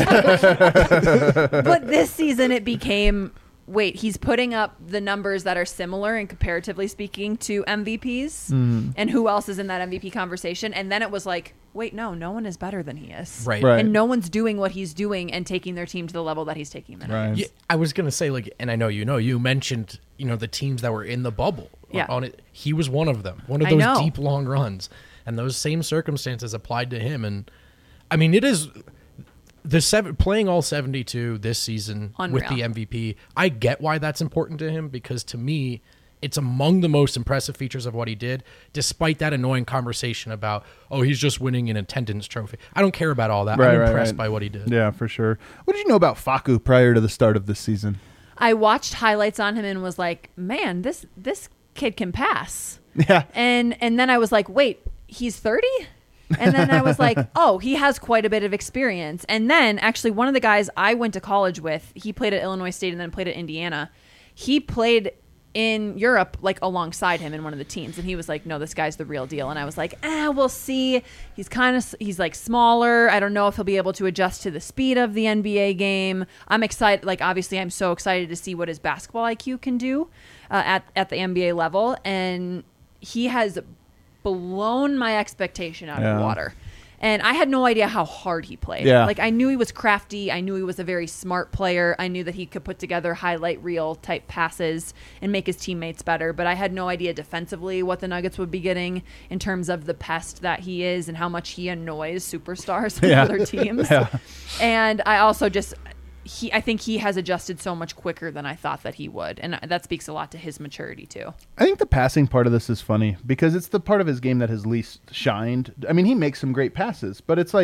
But this season it became, wait, he's putting up the numbers that are similar and comparatively speaking to MVPs. And who else is in that MVP conversation? And then it was like, wait, no one is better than he is. Right. Right. And no one's doing what he's doing and taking their team to the level that he's taking them. Right. Yeah, I was going to say, like, and I know you mentioned, the teams that were in the bubble. Yeah. On it. He was one of them, one of I those know. deep, long runs. And those same circumstances applied to him. And, I mean, it is playing all 72 this season with the Unreal. MVP. I get why that's important to him because, to me, it's among the most impressive features of what he did, despite that annoying conversation about, oh, he's just winning an attendance trophy. I don't care about all that. I'm impressed by what he did. Yeah, for sure. What did you know about Facu prior to the start of this season? I watched highlights on him and was like, man, this kid can pass. Yeah. And then I was like, wait, he's 30? And then I was like, oh, he has quite a bit of experience. And then actually one of the guys I went to college with, he played at Illinois State and then played at Indiana. He played in Europe like alongside him in one of the teams, and he was like, no, this guy's the real deal. And I was like, we'll see. He's like smaller. I don't know if he'll be able to adjust to the speed of the NBA game. I'm excited. Like, obviously I'm so excited to see what his basketball IQ can do at the NBA level, and he has blown my expectation out of the water. And I had no idea how hard he played. Yeah. Like, I knew he was crafty. I knew he was a very smart player. I knew that he could put together highlight reel type passes and make his teammates better. But I had no idea defensively what the Nuggets would be getting in terms of the pest that he is and how much he annoys superstars on other teams. Yeah. And I also just... I think he has adjusted so much quicker than I thought that he would. And that speaks a lot to his maturity, too. I think the passing part of this is funny because it's the part of his game that has least shined. I mean, he makes some great passes, but it's like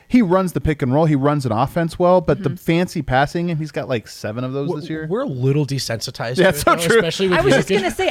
he runs the pick and roll. He runs an offense well, but the fancy passing, he's got like 7 of those this year. We're a little desensitized. Yeah, to it, so though, true. Especially with I was just Jokic. gonna say,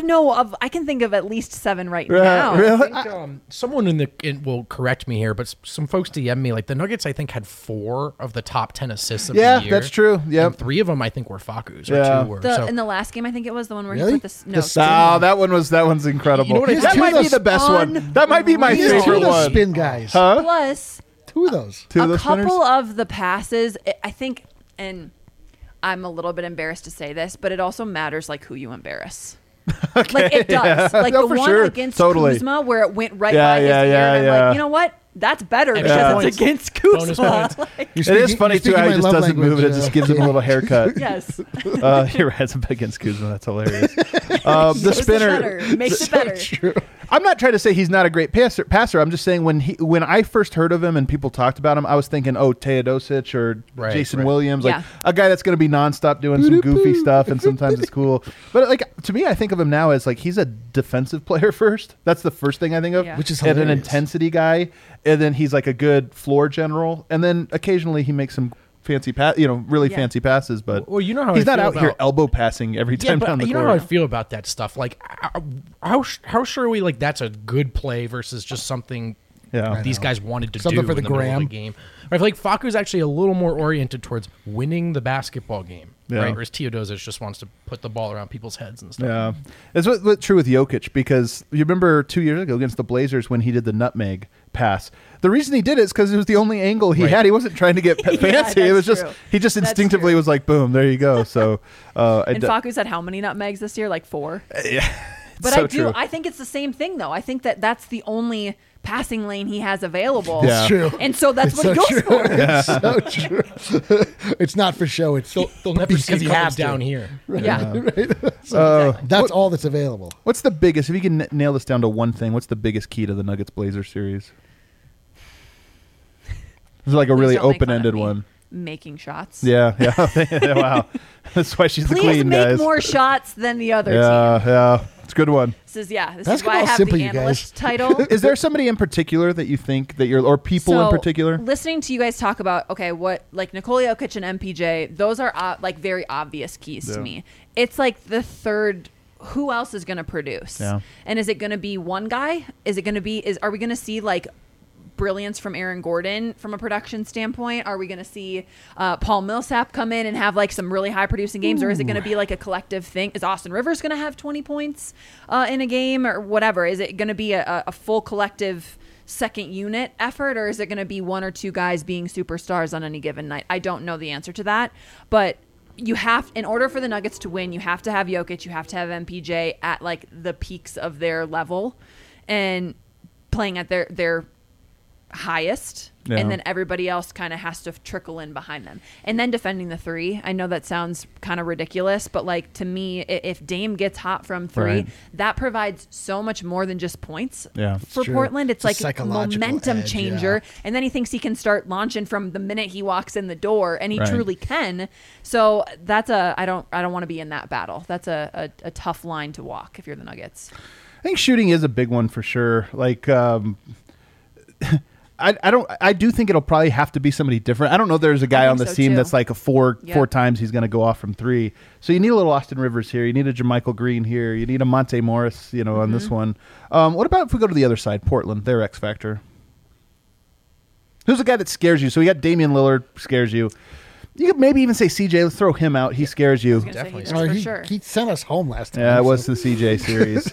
I can think of at least 7 right now. Really? I think, someone will correct me here, but some folks DM me like the Nuggets. I think had 4 of the top 10 assists of the year. That's true. Yeah, 3 of them I think were Facu's. Yeah. Or 2 were. In the last game, I think it was the one where Really? he put the that one's incredible. You know what I that think? might be the best one. That might be my He has 2 favorite of those one. spin guys. Huh? Plus 2 of those. 2 of a those couple spinners? of the passes. I think, and I'm a little bit embarrassed to say this, but it also matters like who you embarrass. Like it does. Like No, the for one sure. against Totally. Kuzma where it went right Yeah, by his yeah, ear. yeah, And I'm yeah. like, you know what? That's better Extra because points. it's against Bonus Kuzma. points. Like, It is funny too how he just doesn't move it. It just gives him a little haircut. yes. You're right. It's against Kuzma. That's hilarious. The spinner. Makes it better. I'm not trying to say he's not a great passer. I'm just saying when I first heard of him and people talked about him, I was thinking, Teodosic or Jason Williams, like a guy that's going to be nonstop doing some goofy stuff, and sometimes it's cool. But like to me, I think of him now as like he's a defensive player first. That's the first thing I think of, Which is and an hilarious. intensity guy, and then he's like a good floor general, and then occasionally he makes some fancy fancy passes, but Well, you know how he's I not feel out here about- elbow passing every time down the you court. know how I feel about that stuff. Like, how sure are we? Like, that's a good play versus just something these guys wanted to Something do for the in the middle of the gram. game. I feel like Facu's actually a little more oriented towards winning the basketball game, Yeah. right? Whereas Teodosic just wants to put the ball around people's heads and stuff. Yeah, it's what's true with Jokic, because you remember 2 years ago against the Blazers when he did the nutmeg pass. The reason he did it is because it was the only angle he had. He wasn't trying to get fancy. It was that's just true. he just That's instinctively true. was like, boom, there you go. So, And Facu's had how many nutmegs this year? Like 4. yeah, But so I do. true. I think it's the same thing, though. I think that's the only passing lane he has available. Yeah. It's true. And so that's It's what so he goes true. for. It's so true. It's not for show. It's They'll never because see he it has down to. here. Yeah. That's all that's available. What's the biggest? If you can nail this down to one thing, what's the biggest key to the Nuggets Blazers series? This is like a Please really don't make fun of open-ended me. one. Making shots. Yeah. Wow, that's why she's the Please queen, make guys. more shots than the other team. Yeah, it's a good one. This is this is Basketball's why I have simple, the you guys. analyst title. Is there somebody in particular that you think that or people in So, particular? listening to you guys talk about what like Nikola Jokic and MPJ, those are like very obvious keys to me. It's like the third. Who else is going to produce? Yeah. And is it going to be one guy? Is it going to be? Are we going to see like brilliance from Aaron Gordon from a production standpoint? Are we going to see Paul Millsap come in and have like some really high producing games, or is it going to be like a collective thing? Is Austin Rivers going to have 20 points in a game or whatever? Is it going to be a full collective second unit effort, or is it going to be one or two guys being superstars on any given night? I don't know the answer to that, but you have, in order for the Nuggets to win, you have to have Jokic, you have to have MPJ at like the peaks of their level and playing at their highest, and then everybody else kind of has to trickle in behind them. And then defending the three. I know that sounds kind of ridiculous, but like to me, if Dame gets hot from three, Right. that provides so much more than just points. Yeah. For true. Portland, it's It's a like psychological momentum edge, changer. And then he thinks he can start launching from the minute he walks in the door, and he Right. truly can. So that's I don't want to be in that battle. That's a tough line to walk if you're the Nuggets. I think shooting is a big one for sure. Like, I do think it'll probably have to be somebody different. I don't know if there's a guy I on think the so, team too. that's like a four Yeah. times he's going to go off from three. So you need a little Austin Rivers here. You need a Jermichael Green here. You need a Monte Morris, on Mm-hmm. this one. What about if we go to the other side, Portland, their X factor? Who's the guy that scares you? So we got Damian Lillard, scares you. You could maybe even say CJ. Let's throw him out. He scares you. Gonna say he Definitely. does Or for he, sure. he sent us home last time. Yeah, it so- was the CJ series.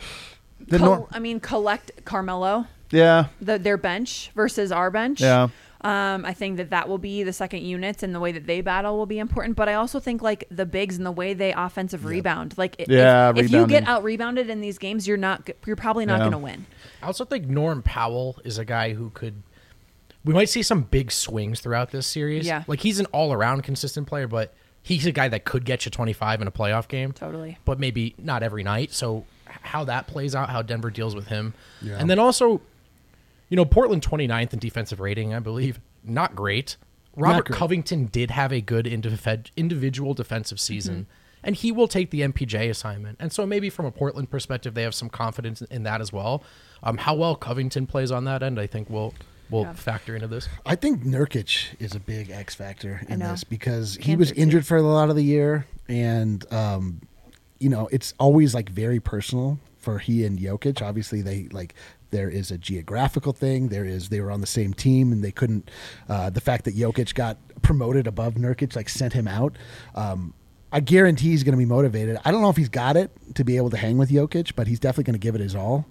Collect Carmelo. Yeah. Their bench versus our bench. Yeah. I think that will be the second units, and the way that they battle will be important. But I also think like the bigs and the way they offensive rebound. Like if you rebounding. get out rebounded in these games, you're probably not Yeah. going to win. I also think Norm Powell is a guy who could. We might see some big swings throughout this series. Yeah. Like he's an all-around consistent player, but he's a guy that could get you 25 in a playoff game. Totally. But maybe not every night. So how that plays out, how Denver deals with him. Yeah. And then also, Portland 29th in defensive rating, I believe. Not great. Robert great. Covington did have a good individual defensive season, and he will take the MPJ assignment. And so maybe from a Portland perspective, they have some confidence in that as well. How well Covington plays on that end, I think will will factor into this? I think Nurkic is a big X factor in this because he Cancer was too. injured for a lot of the year, and it's always like very personal for he and Jokic. Obviously, there is a geographical thing. They were on the same team and they couldn't. The fact that Jokic got promoted above Nurkic like sent him out. I guarantee he's going to be motivated. I don't know if he's got it to be able to hang with Jokic, but he's definitely going to give it his all.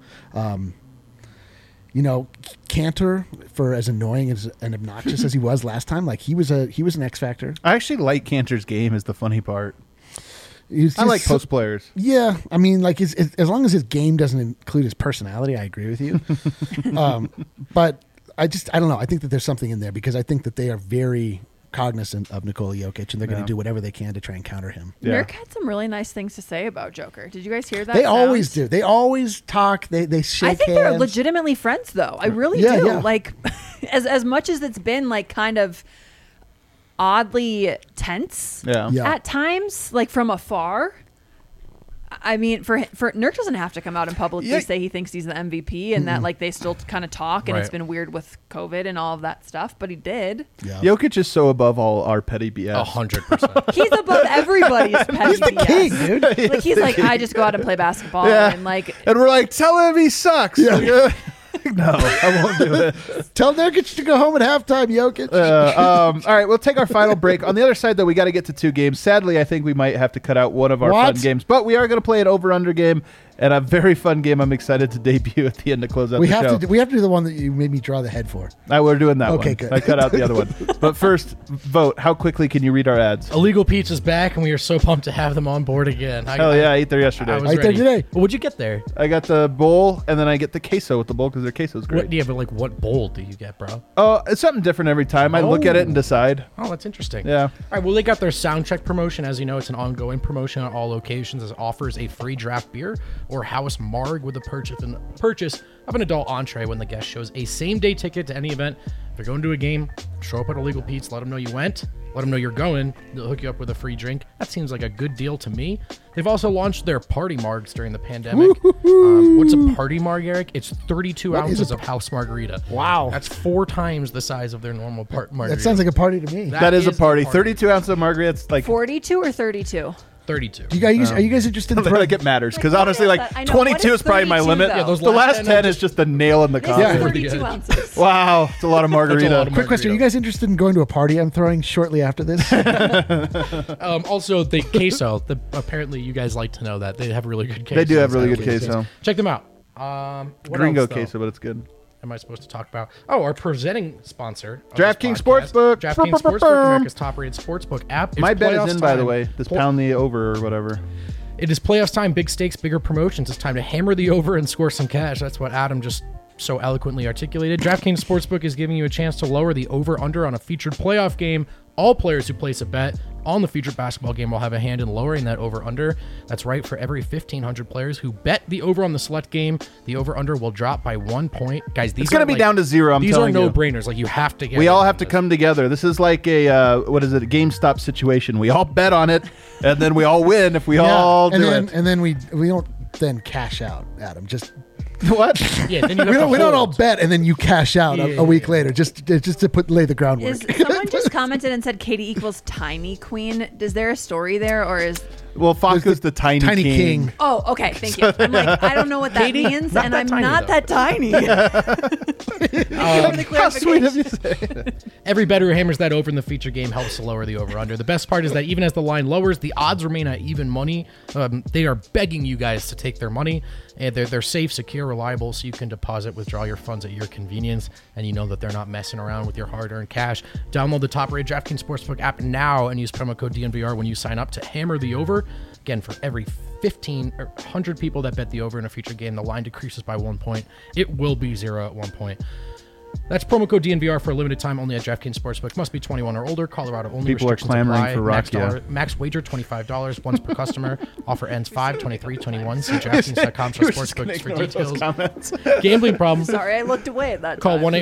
Cantor, for as annoying and obnoxious as he was last time, like he was an X factor. I actually like Cantor's game. Is the funny part. I like post players. Yeah, I mean, like as long as his game doesn't include his personality, I agree with you. But I don't know. I think that there's something in there because I think that they are very cognizant of Nikola Jokic and they're going to do whatever they can to try and counter him. Yeah. Nurk had some really nice things to say about Joker. Did you guys hear that? They always do. They always talk. They shake I think hands. they're legitimately friends, though. I really do. Yeah. Like, as much as it's been like kind of oddly tense Yeah. at times, like from afar. I mean, for Nurk doesn't have to come out and publicly say he thinks he's the MVP and that like they still kind of talk and it's been weird with COVID and all of that stuff, but he did. Yeah. Jokic is so above all our petty BS. 100%. He's above every's petty He's the BS. king, dude. Like he's like, I just go out and play basketball and like And we're like, tell him he sucks. Yeah. No, I won't do it. Tell Nurkic to go home at halftime, Jokic. All right, we'll take our final break. On the other side, though, we got to get to 2 games. Sadly, I think we might have to cut out one of our fun games, but we are going to play an over-under game and a very fun game I'm excited to debut at the end to close out the show. We have to do the one that you made me draw the head for. We're doing that one. Okay, good. I cut out the other one. But first, vote. How quickly can you read our ads? Illegal Pizza's back, and we are so pumped to have them on board again. Hell yeah, I ate there yesterday. I was I ate there ready. today. Well, what'd you get there? I got the bowl, and then I get the queso with the bowl because their queso's great. But like, what bowl do you get, bro? Oh, it's something different every time. I look at it and decide. Oh, that's interesting. Yeah. All right. Well, they got their sound check promotion. As you know, it's an ongoing promotion at all locations. It offers a free draft beer or house marg with the purchase of an adult entree when the guest shows a same-day ticket to any event. If they're going to a game, show up at Illegal Pete's, let them know you went, let them know you're going. They'll hook you up with a free drink. That seems like a good deal to me. They've also launched their party margs during the pandemic. What's a party marg, Eric? It's 32 ounces of house margarita. Wow. That's 4 times the size of their normal margarita. That sounds like a party to me. That is a the party. 32 ounces of margaritas, like 42 or 32. 32. Are you guys interested in I think it matters because Like, what honestly, is like that? I know, what 22 is is probably my 32 limit. though? Yeah, those the last last 10 10 is just the nail in the coffin. Yeah. 32 ounces. Wow, it's a lot of margarita. That's a lot of Quick question: Are you guys interested in going to a party I'm throwing shortly after this? Also, the queso. Apparently, you guys like to know that they have really good queso. They do have really good queso. Check them out. What Gringo else, though, queso, but it's good. am I supposed to talk about? Oh, our presenting sponsor, of DraftKings this podcast, Sportsbook. DraftKings Sportsbook, America's top-rated sportsbook app. It's My bet playoffs is in, by the time. way. This pound the over or whatever. It is playoffs time, big stakes, bigger promotions. It's time to hammer the over and score some cash. That's what Adam just so eloquently articulated. DraftKings Sportsbook is giving you a chance to lower the over-under on a featured playoff game. All players who place a bet on the featured basketball game will have a hand in lowering that over-under. That's right, for every 1,500 players who bet the over on the select game, the over-under will drop by 1 point. Guys, these It's going to be down to 0, I'm telling you. These are no-brainers. Like, you have to get We in all on have to this. come together. This is like a, a GameStop situation. We all bet on it, and then we all win if we all do it. And then we don't then cash out, Adam. Just What? Yeah, then you have we to don't all hold. bet and then you cash out Yeah. a week later just to lay the groundwork. Is someone just commented and said Katie equals tiny queen? Is there a story there, or is? Well, Faku's the tiny king. Oh, okay, thank you. I'm like, I don't know what that Katie, means, not and that I'm tiny, not though. that tiny. How sweet of you to say. Every bettor who hammers that over in the feature game helps to lower the over-under. The best part is that even as the line lowers, the odds remain at even money. They are begging you guys to take their money. And they're safe, secure, reliable, so you can deposit, withdraw your funds at your convenience, and you know that they're not messing around with your hard-earned cash. Download the top-rated DraftKings Sportsbook app now and use promo code DNVR when you sign up to hammer the over. Again, for every 15 or 100 people that bet the over in a future game, the line decreases by 1 point. It will be 0 at 1 point. That's promo code DNVR for a limited time only at DraftKings Sportsbook. Must be 21 or older. Colorado only. People are Restrictions clamoring apply. for Rakia. Max wager $25 once per customer. Offer ends 5/23/21. See DraftKings.com/sportsbooks for details. Comments. Gambling problem? Sorry, I looked away at that Call time.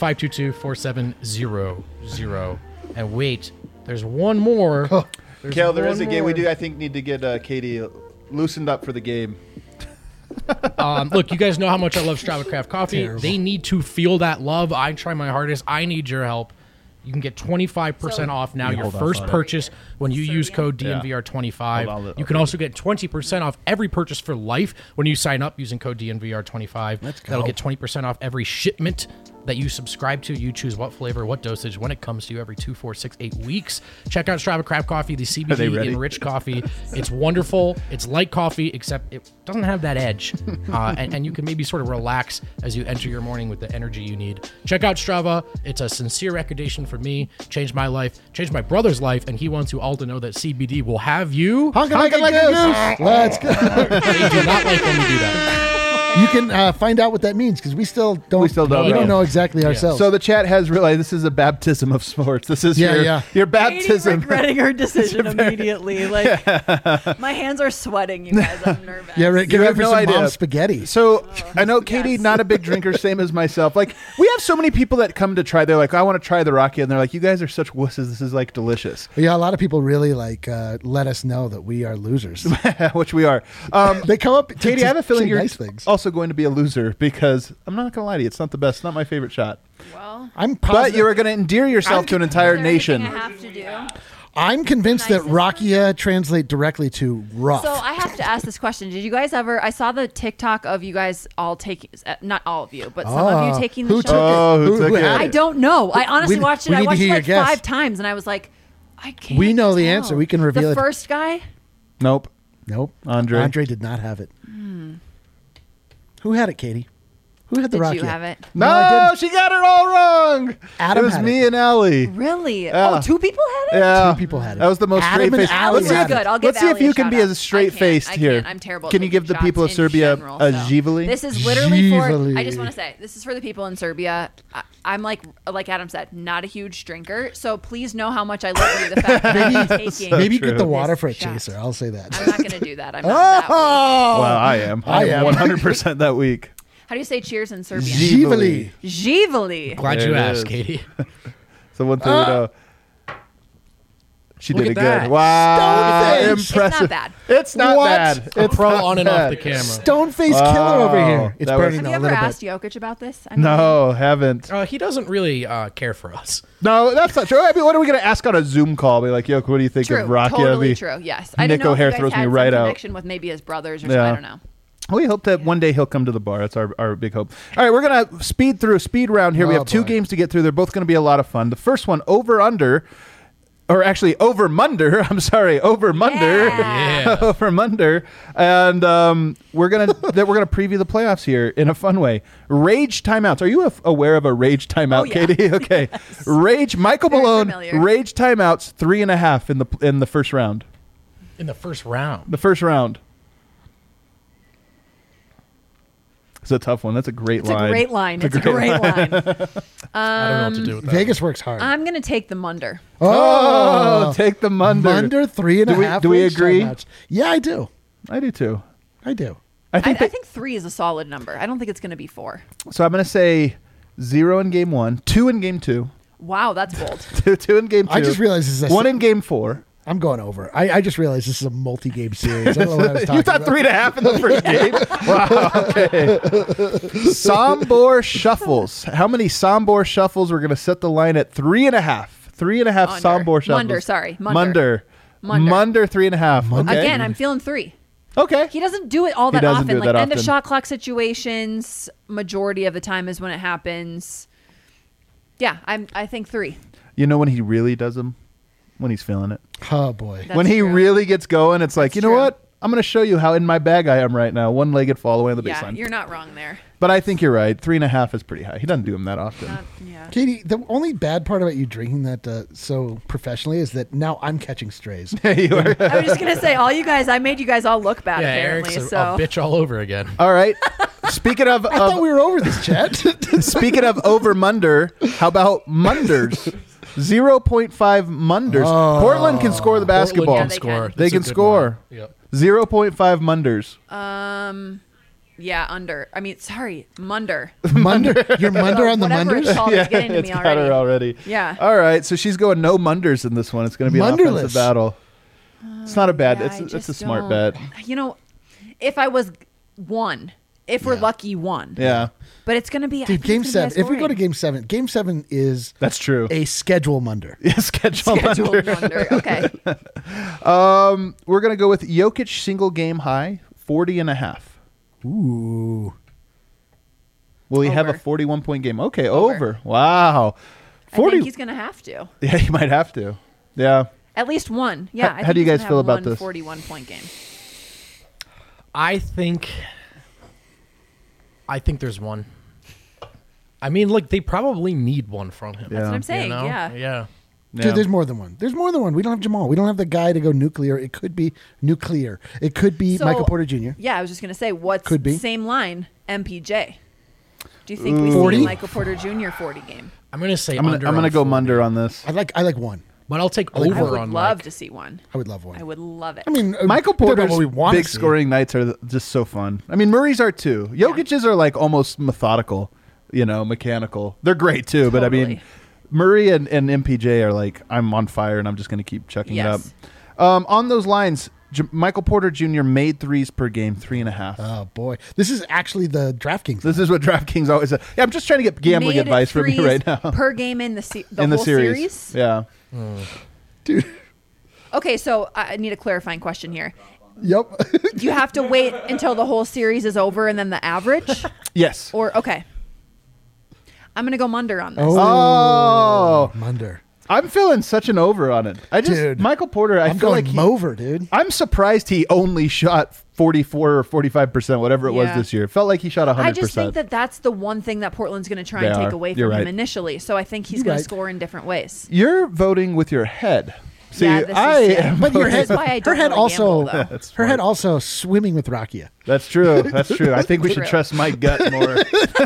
1-800-522-4700. And wait, there's one more. There's Kale, there one is a game we more. do. I think need to get Katie loosened up for the game. Look, you guys know how much I love Strava Craft Coffee. Terrible. They need to feel that love. I try my hardest. I need your help. You can get 25% off now your first purchase when you use code DNVR25. You can also get 20% off every purchase for life when you sign up using code DNVR25. That'll get 20% off every shipment that you subscribe to. You choose what flavor, what dosage, when it comes to you every 2, 4, 6, 8 weeks. Check out Strava Craft Coffee, the CBD enriched coffee. It's wonderful. It's like coffee, except it doesn't have that edge. And you can maybe sort of relax as you enter your morning with the energy you need. Check out Strava. It's a sincere recommendation for me. Changed my life, changed my brother's life, and he wants you all to know that CBD will have you honking like a goose. Let's go. They do not like when we do that. You can find out what that means because we still don't. We don't know exactly ourselves. So the chat has realized this is a baptism of sports. This is your baptism. Katie regretting her decision immediately. Like my hands are sweating, you guys. I'm nervous. Yeah, get ready for no some idea. mom spaghetti. So I know Katie, not a big drinker, same as myself. Like we have so many people that come to try. They're like, I want to try the Rocky, and they're like, you guys are such wusses. This is like delicious. Yeah, a lot of people really like let us know that we are losers, which we are. They come up. Katie, I have a feeling you're nice things. also going to be a loser because I'm not going to lie to you. It's not the best. It's not my favorite shot. Well, I'm positive. But you are going to endear yourself to an entire nation. I have to do. I'm convinced that Rakia translate directly to rough. So I have to ask this question. Did you guys ever, I saw the TikTok of you guys all taking, not all of you, but some of you taking the shot. Who took it? I don't know. I honestly watched it. I watched it like 5 times and I was like, I can't We know the tell. answer. We can reveal it. The first guy? Nope. Andre did not have it. Who had it, Katie? Who had the Did Rakia? you have it? No, I didn't. she got it all wrong. Adam it was had me it. and Allie. Really? Yeah. Oh, 2 people had it? Yeah. 2 people had it. That was the most Adam straight and faced. Allie Let's had do it. good. I'll give Let's see if Allie you a can be shout-out. as straight faced I here. can't. I'm terrible. Can you give the people of Serbia a Zhivali? This is literally for. Zhivali. I just want to say this is for the people in Serbia. I'm like Adam said, not a huge drinker, so please know how much I love you. The fact that I'm taking. Maybe true. get the water for a This shot. chaser. I'll say that. I'm not going to do that. I'm not that weak. Well, I am. I am 100% that week. How do you say cheers in Serbian? Zhivali. Zhivali. Glad There you it asked, is. Katie. So one thing we know. She Look did it at that. good. Wow. Stoneface. Impressive. It's not bad. It's not What? bad. A It's pro not on and bad. off the camera. Stoneface Wow. killer over here. It's That was- burning Have a you ever little asked bit. Jokic about this? I mean, No, haven't. He doesn't really care for us. No, that's not true. I mean, what are we going to ask on a Zoom call? Be like, yo, what do you think True. of Rocky? Totally true. Yes. I don't Nick know O'Hare if you throws guys me had right some out. connection with maybe his brothers or Yeah. something. I don't know. We hope that one day he'll come to the bar. That's our big hope. All right, we're going to speed through a speed round here. We Oh, have 2 boy. games to get through. They're both going to be a lot of fun. The first one, over-under. Or actually, over-munder. I'm sorry, over-munder. Yeah. Over-munder. And we're gonna preview the playoffs here in a fun way. Rage timeouts. Are you aware of a rage timeout, Oh, yeah. Katie? Okay. Yes. Rage. Michael Very Malone. familiar. Rage timeouts. 3.5 in the first round. In the first round. The first round. It's a tough one. That's a great It's line. a great line. It's a great line. I don't know what to do with that. Vegas works hard. I'm going to take the Munder. Oh, take the Munder. Munder 3.5. Do we rage agree? timeouts. Yeah, I do. I do too. I do. I I think, think 3 is a solid number. I don't think it's going to be 4. so. I'm going to say 0 in game 1, 2 in game 2, Wow, that's bold. 2 in game 2. I just realized this is a 1 in game 4. I'm going over. I just realized this is a multi-game series. I don't know what I was talking You thought about. 3.5 in the first game? Wow. Okay. Sombor shuffles. How many Sombor shuffles? We're going to set the line at 3.5. 3.5 Under. Sombor shuffles. Munder, sorry. Munder. Munder. Munder 3.5. Okay. Again, I'm feeling 3. Okay. He doesn't do it all that doesn't often. do it Like that end of often. shot clock situations, majority of the time is when it happens. Yeah, I think 3. You know when he really does them? When he's feeling it. Oh boy. That's when he true. really gets going, it's like, That's you know true. what? I'm going to show you how in my bag I am right now. One-legged fall away on the Yeah, baseline. you're not wrong there. But I think you're right. 3.5 is pretty high. He doesn't do them that often. Yeah. Katie, the only bad part about you drinking that so professionally is that now I'm catching strays. You are. I was just gonna say, all you guys, I made you guys all look bad. Yeah, apparently, Eric's so a bitch all over again. All right. Speaking of, I thought we were over this, chat. speaking of over Munder, how about Munders? 0.5 Munders. Oh. Portland can score the basketball. Portland Yeah, can they score. can. They That's a can good score. line. Yep. 0.5 Munders. yeah, under. I mean, sorry, Munder. Munder, you're Munder on the Whatever it's Munders. called, it's getting to it's me got her already. already. Yeah. All right. So she's going no Munders in this one. It's going to be an Munderless. offensive battle. It's not a bad. Yeah, I it's a just smart don't- bet. You know, if I was 1. If we're lucky, 1. Yeah. But it's going to be... Dude, Game 7. If we go to Game 7, Game 7 is... That's true. A schedule munder. Yeah, schedule Scheduled under. wonder. Okay. We're going to go with Jokic single game high, 40.5. Ooh. Will he have a Over. 41-point game? Okay, Over. over. Wow. I 40. think he's going to have to. Yeah, he might have to. Yeah. At least 1. Yeah. How I think do you he's guys gonna feel have about one this? 41-point game. I think there's one. I mean, like, they probably need one from him. Yeah. That's what I'm saying. You know? Yeah. Yeah. Dude, there's more than one. There's more than one. We don't have Jamal. We don't have the guy to go nuclear. It could be nuclear. It could be So- Michael Porter Jr. Yeah, I was just going to say, what's Could be. the same line? MPJ. Do you think we 40? see Michael Porter Jr. 40 game? I'm going to say I'm under. gonna on go 40. Munder on this. I like one. But I'll take I over would on love like, to see one. I would love one. I would love it. I mean, Michael depending on Porter's what we want big to see. scoring nights are just so fun. I mean, Murray's are too. Jokic's are like almost methodical, mechanical. They're great too, but I mean, Totally. Murray and MPJ are like, I'm on fire and I'm just going to keep chucking Yes. it up. On those lines, Michael Porter Jr. made threes per game, 3.5. Oh boy, this is actually the DraftKings. This is what DraftKings always says. Yeah, I'm just trying to get gambling Made advice from you threes right now. Per game in the In the whole series. Yeah. Dude. Okay, so I need a clarifying question here. Yep. Do you have to wait until the whole series is over and then the average? Yes. Or, okay. I'm going to go Munder on this. Oh. Munder. I'm feeling such an over on it. Dude. Michael Porter, I I'm feel going like Mover, dude. I'm surprised he only shot 44 or 45%, whatever it was Yeah. this year. It felt like he shot 100%. I just think that that's the one thing that Portland's going to try They and take are. away You're from him right. initially. So I think he's You're going right. to score in different ways. You're voting with your head. See, Yeah, this is- I yeah. am. But your This head, is why I her don't head really also, gamble, though. her head also swimming with Rakia. That's true. That's true. I think we should True. trust my gut more.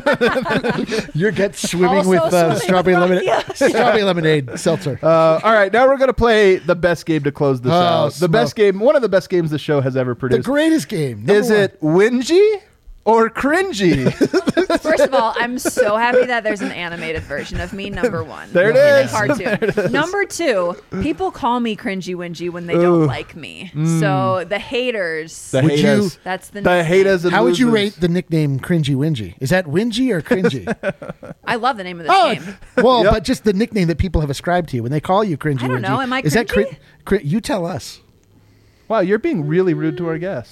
Your gut swimming Also with swimming strawberry with lemonade, Rakia. strawberry lemonade seltzer. All right, now we're going to play the best game to close this out. The smoke. best game, one of the best games the show has ever The produced. greatest game. Number Is one. it whingy or cringy? First of all, I'm so happy that there's an animated version of me, number one. There it in a is. cartoon. Number two, people call me cringy wingy when they don't like me. So the haters, The Would haters. you- that's the The nickname. haters and How would you losers. rate the nickname Cringy Wingy? Is that Wingy or Cringy? I love the name of this Oh, game. well, Yep. but just the nickname that people have ascribed to you when they call you Cringy I don't Wingy. know. Am I Is that cringy? you tell us. Wow, you're being really rude to our guest.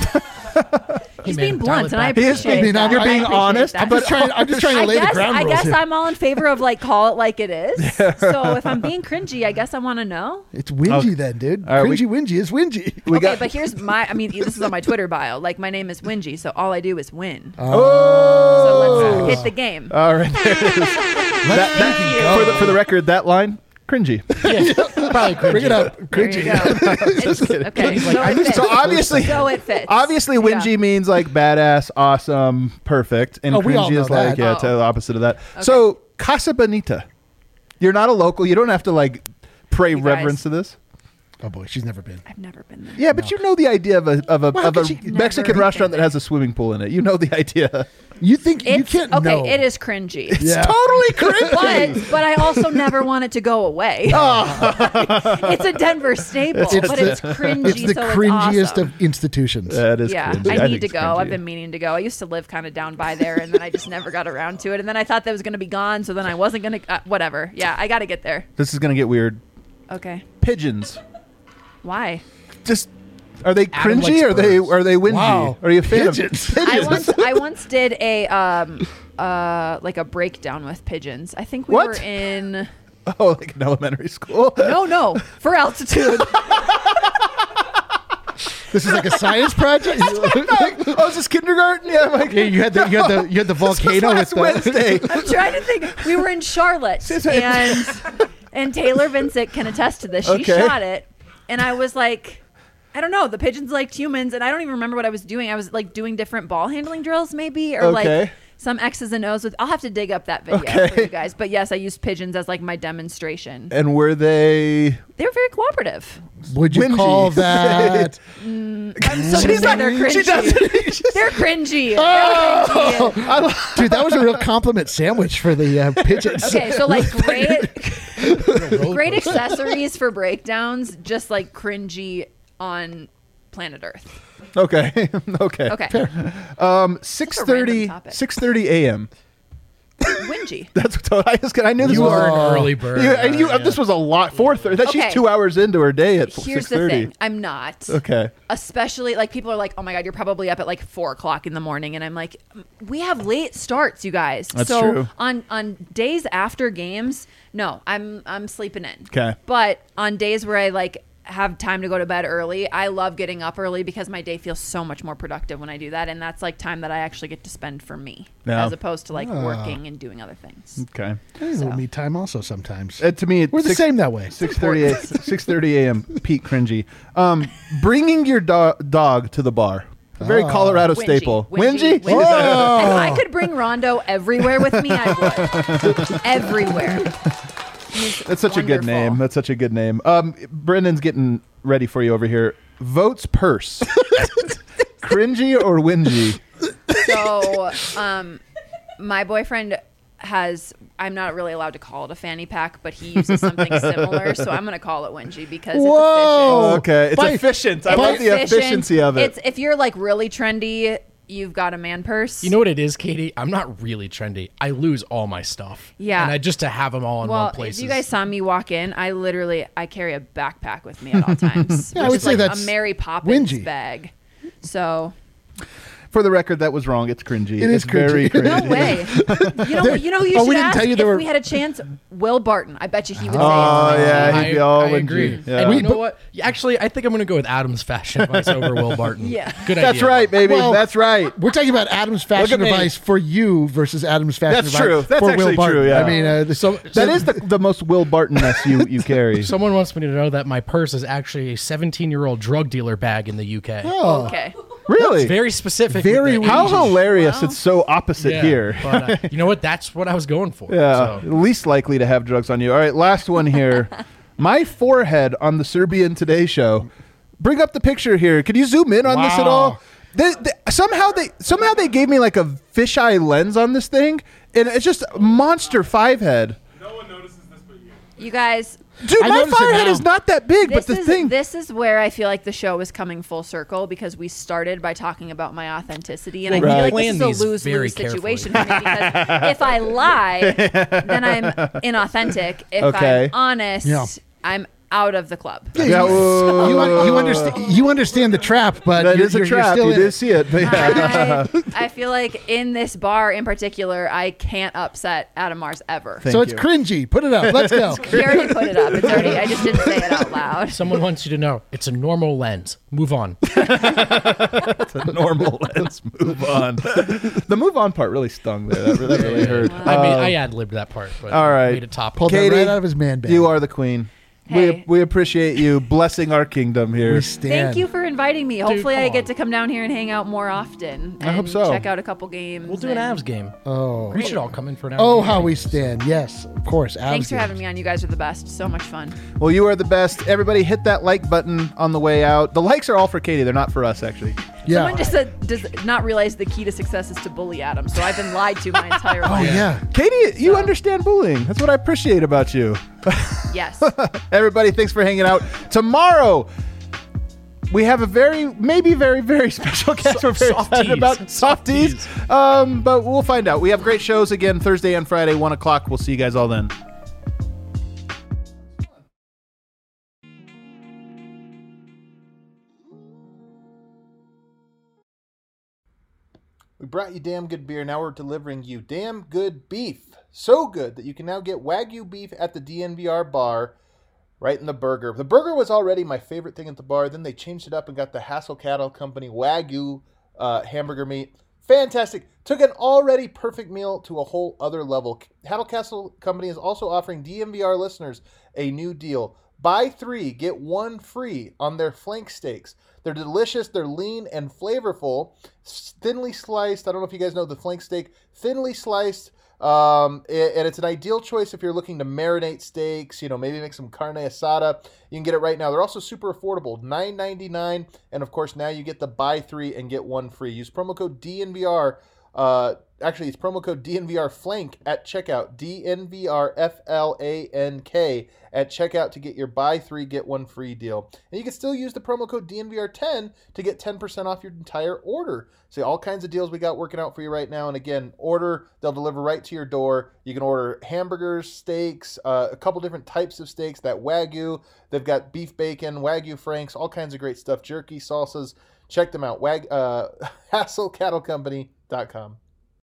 He's man, being dial blunt, it and I back. He is appreciate being- that. you're I being appreciate honest, that. but- I'm just trying to lay the ground I rules guess here. I'm all in favor of like call it like it is. So if I'm being cringy, I guess I want to know. It's Wingy then, dude. All right, Cringy Wingy is Wingy. Okay, but here's my. I mean, this is on my Twitter bio. Like my name is Wingy, so all I do is win. Oh. So let's hit the game. All right. There it is. Thank you. For the record, that line, cringy. Probably cringy. Bring it up. There Cringy. you go. It's- okay, so it fits. So obviously, So it fits. obviously, whingy Yeah. means like badass, awesome, perfect, and Oh, we all cringy know is like that. the opposite of that. So Casa Bonita, you're not a local. You don't have to like pray You guys. reverence to this. Oh boy, she's never been. I've never been there. Yeah, but you know the idea of a Well, how could she- Mexican Never restaurant been that has a swimming pool in it. You know the idea. You think you It's can't okay. know? It is cringy. Yeah. Totally cringy. But I also never want it to go away. It's a Denver staple, It's but the- it's cringy. It's the so cringiest it's awesome. of institutions. That is Yeah, cringy. I think need to it's go. cringy. I've been meaning to go. I used to live kind of down by there, and then I just never got around to it. And then I thought that was going to be gone, so then I wasn't going to. Whatever. Yeah, I got to get there. This is gonna get weird. Okay. Pigeons. Why? Just are they Adam cringy? likes Or they birds. are they whingy? Wow. Are you a fan Pigeons. of pigeons? I once did a like a breakdown with pigeons. I think we What? were in Oh, like in elementary school. no for altitude. This is like a science project. Oh, is this kindergarten? Yeah, like, Yeah, you had the volcano with last the Wednesday. I'm trying to think. We were in Charlotte, and Taylor Vincent can attest to this. She Okay. shot it, and I was like, I don't know. The pigeons liked humans, and I don't even remember what I was doing. I was like doing different ball handling drills, maybe, or Okay. like some X's and O's. I'll have to dig up that video for Okay. you guys. But yes, I used pigeons as like my demonstration. And were they? They were very cooperative. Would you Whingy. call that? I'm so gonna say they're cringy. She doesn't. They're cringy. Oh! They're cringy. Dude, that was a real compliment sandwich for the pigeons. Okay, so like great accessories for breakdowns, just like cringy on planet Earth. Okay. Okay. 6:30 a.m. Wingy. That's what I knew this You was are an early bird. This was a lot. 4:30. Okay. She's 2 hours into her day at 6:30. Here's the thing. I'm not. Okay. Especially like people are like, oh my God, you're probably up at like 4:00 in the morning. And I'm like, we have late starts, you guys. That's so true. on days after games, no, I'm sleeping in. Okay. But on days where I like have time to go to bed early, I love getting up early because my day feels so much more productive when I do that. And that's like time that I actually get to spend for me as opposed to like working and doing other things. Okay. I need a little me time also sometimes. To me, we're the same that way. 6:30 a.m. Peak cringy. Bringing your dog to the bar. A very Colorado staple. Wingy? If I could bring Rondo everywhere with me, I would. Everywhere. That's such a good name. That's such a good name. Brendan's getting ready for you over here. Votes purse. Cringy or whingy? So, my boyfriend I'm not really allowed to call it a fanny pack, but he uses something similar, so I'm going to call it whingy because it's efficient. Okay. It's efficient. I love the efficiency of it. If you're like really trendy, you've got a man purse. You know what it is, Katie? I'm not really trendy. I lose all my stuff. Yeah. And I just to have them all in one place. If you guys saw me walk in, I carry a backpack with me at all times. Yeah, I would say that's a Mary Poppins whingy. bag. So For the record, that was wrong. It's cringy. It's very cringy. no way. You know who you should we didn't ask tell you if we had a chance? Will Barton. I bet you he would say Oh, it's yeah. He'd be all I whingy. agree. Yeah. And you know what? Actually, I think I'm going to go with Adam's fashion advice over Will Barton. Yeah. Good idea. That's right, baby. Well, That's right. We're talking about Adam's fashion me. advice for you versus Adam's fashion That's advice true. That's for actually Will Barton. true, yeah. I mean, That is the most Will Barton-ness you carry. Someone wants me to know that my purse is actually a 17-year-old drug dealer bag in the UK. Oh, Okay. Really? It's very specific. Very with the How age. hilarious. It's so opposite Yeah, here. But, you know what? That's what I was going for. Yeah, So. least likely to have drugs on you. All right, last one here. My forehead on the Serbian Today show. Bring up the picture here. Could you zoom in on this at all? Somehow they gave me like a fisheye lens on this thing, and it's just a monster 5-head. No one notices this but you. You guys, Dude, I my notice it forehead now. is not that big, but this is where I feel like the show is coming full circle because we started by talking about my authenticity, and I Right. feel like Plan this is these a lose-lose very situation for me because if I lie, then I'm inauthentic. If Okay. I'm honest, Yeah. I'm out of the club. Yeah, you understand the trap, but that you're, is a you're trap. still You in did it. see it. But yeah. I feel like in this bar in particular, I can't upset Adam Mars ever. Thank So it's you. cringy. Put it up. Let's go. He already put it up. It's already. I just didn't say it out loud. Someone wants you to know it's a normal lens. Move on. It's a normal lens. Move on. The move on part really stung there. That really hurt. I mean, I ad-libbed that part. But all right. made it top. Pulled that Katie, right out of his man bag. You are the queen. Hey. We appreciate you blessing our kingdom here. We stand. Thank you for inviting me. Hopefully, I come get on. to come down here and hang out more often. I hope and so. Check out a couple games. We'll do an and- Avs game. Oh, We should all come in for an Avs oh, game. how we stand. Yes, of course. Thanks for having me on. You guys are the best. So much fun. Well, you are the best. Everybody hit that like button on the way out. The likes are all for Katie. They're not for us, actually. Yeah. Someone just said, does not realize the key to success is to bully Adam. So I've been lied to my entire Oh life. yeah. Katie, you So- understand bullying. That's what I appreciate about you. Yes. Everybody, thanks for hanging out. Tomorrow, we have a maybe very, very special guest. We're very excited about Softies. But we'll find out. We have great shows again Thursday and Friday, 1 o'clock. We'll see you guys all then. We brought you damn good beer. Now we're delivering you damn good beef. So good that you can now get Wagyu beef at the DNVR bar right in the burger. The burger was already my favorite thing at the bar. Then they changed it up and got the Hassel Cattle Company Wagyu hamburger meat. Fantastic. Took an already perfect meal to a whole other level. Hassel Cattle Company is also offering DNVR listeners a new deal. Buy 3, get 1 free on their flank steaks. They're delicious, they're lean and flavorful. Thinly sliced, I don't know if you guys know the flank steak, thinly sliced, and it's an ideal choice if you're looking to marinate steaks, maybe make some carne asada. You can get it right now. They're also super affordable, $9.99, and of course now you get the buy 3 and get 1 free. Use promo code DNVR Actually, it's promo code DNVRFLANK at checkout. DNVRFLANK at checkout to get your buy 3 get 1 free deal. And you can still use the promo code DNVR10 to get 10% off your entire order. See all kinds of deals we got working out for you right now. And again, order, they'll deliver right to your door. You can order hamburgers, steaks, a couple different types of steaks, that Wagyu. They've got beef bacon, Wagyu Franks, all kinds of great stuff, jerky, salsas. Check them out. HassleCattleCompany.com.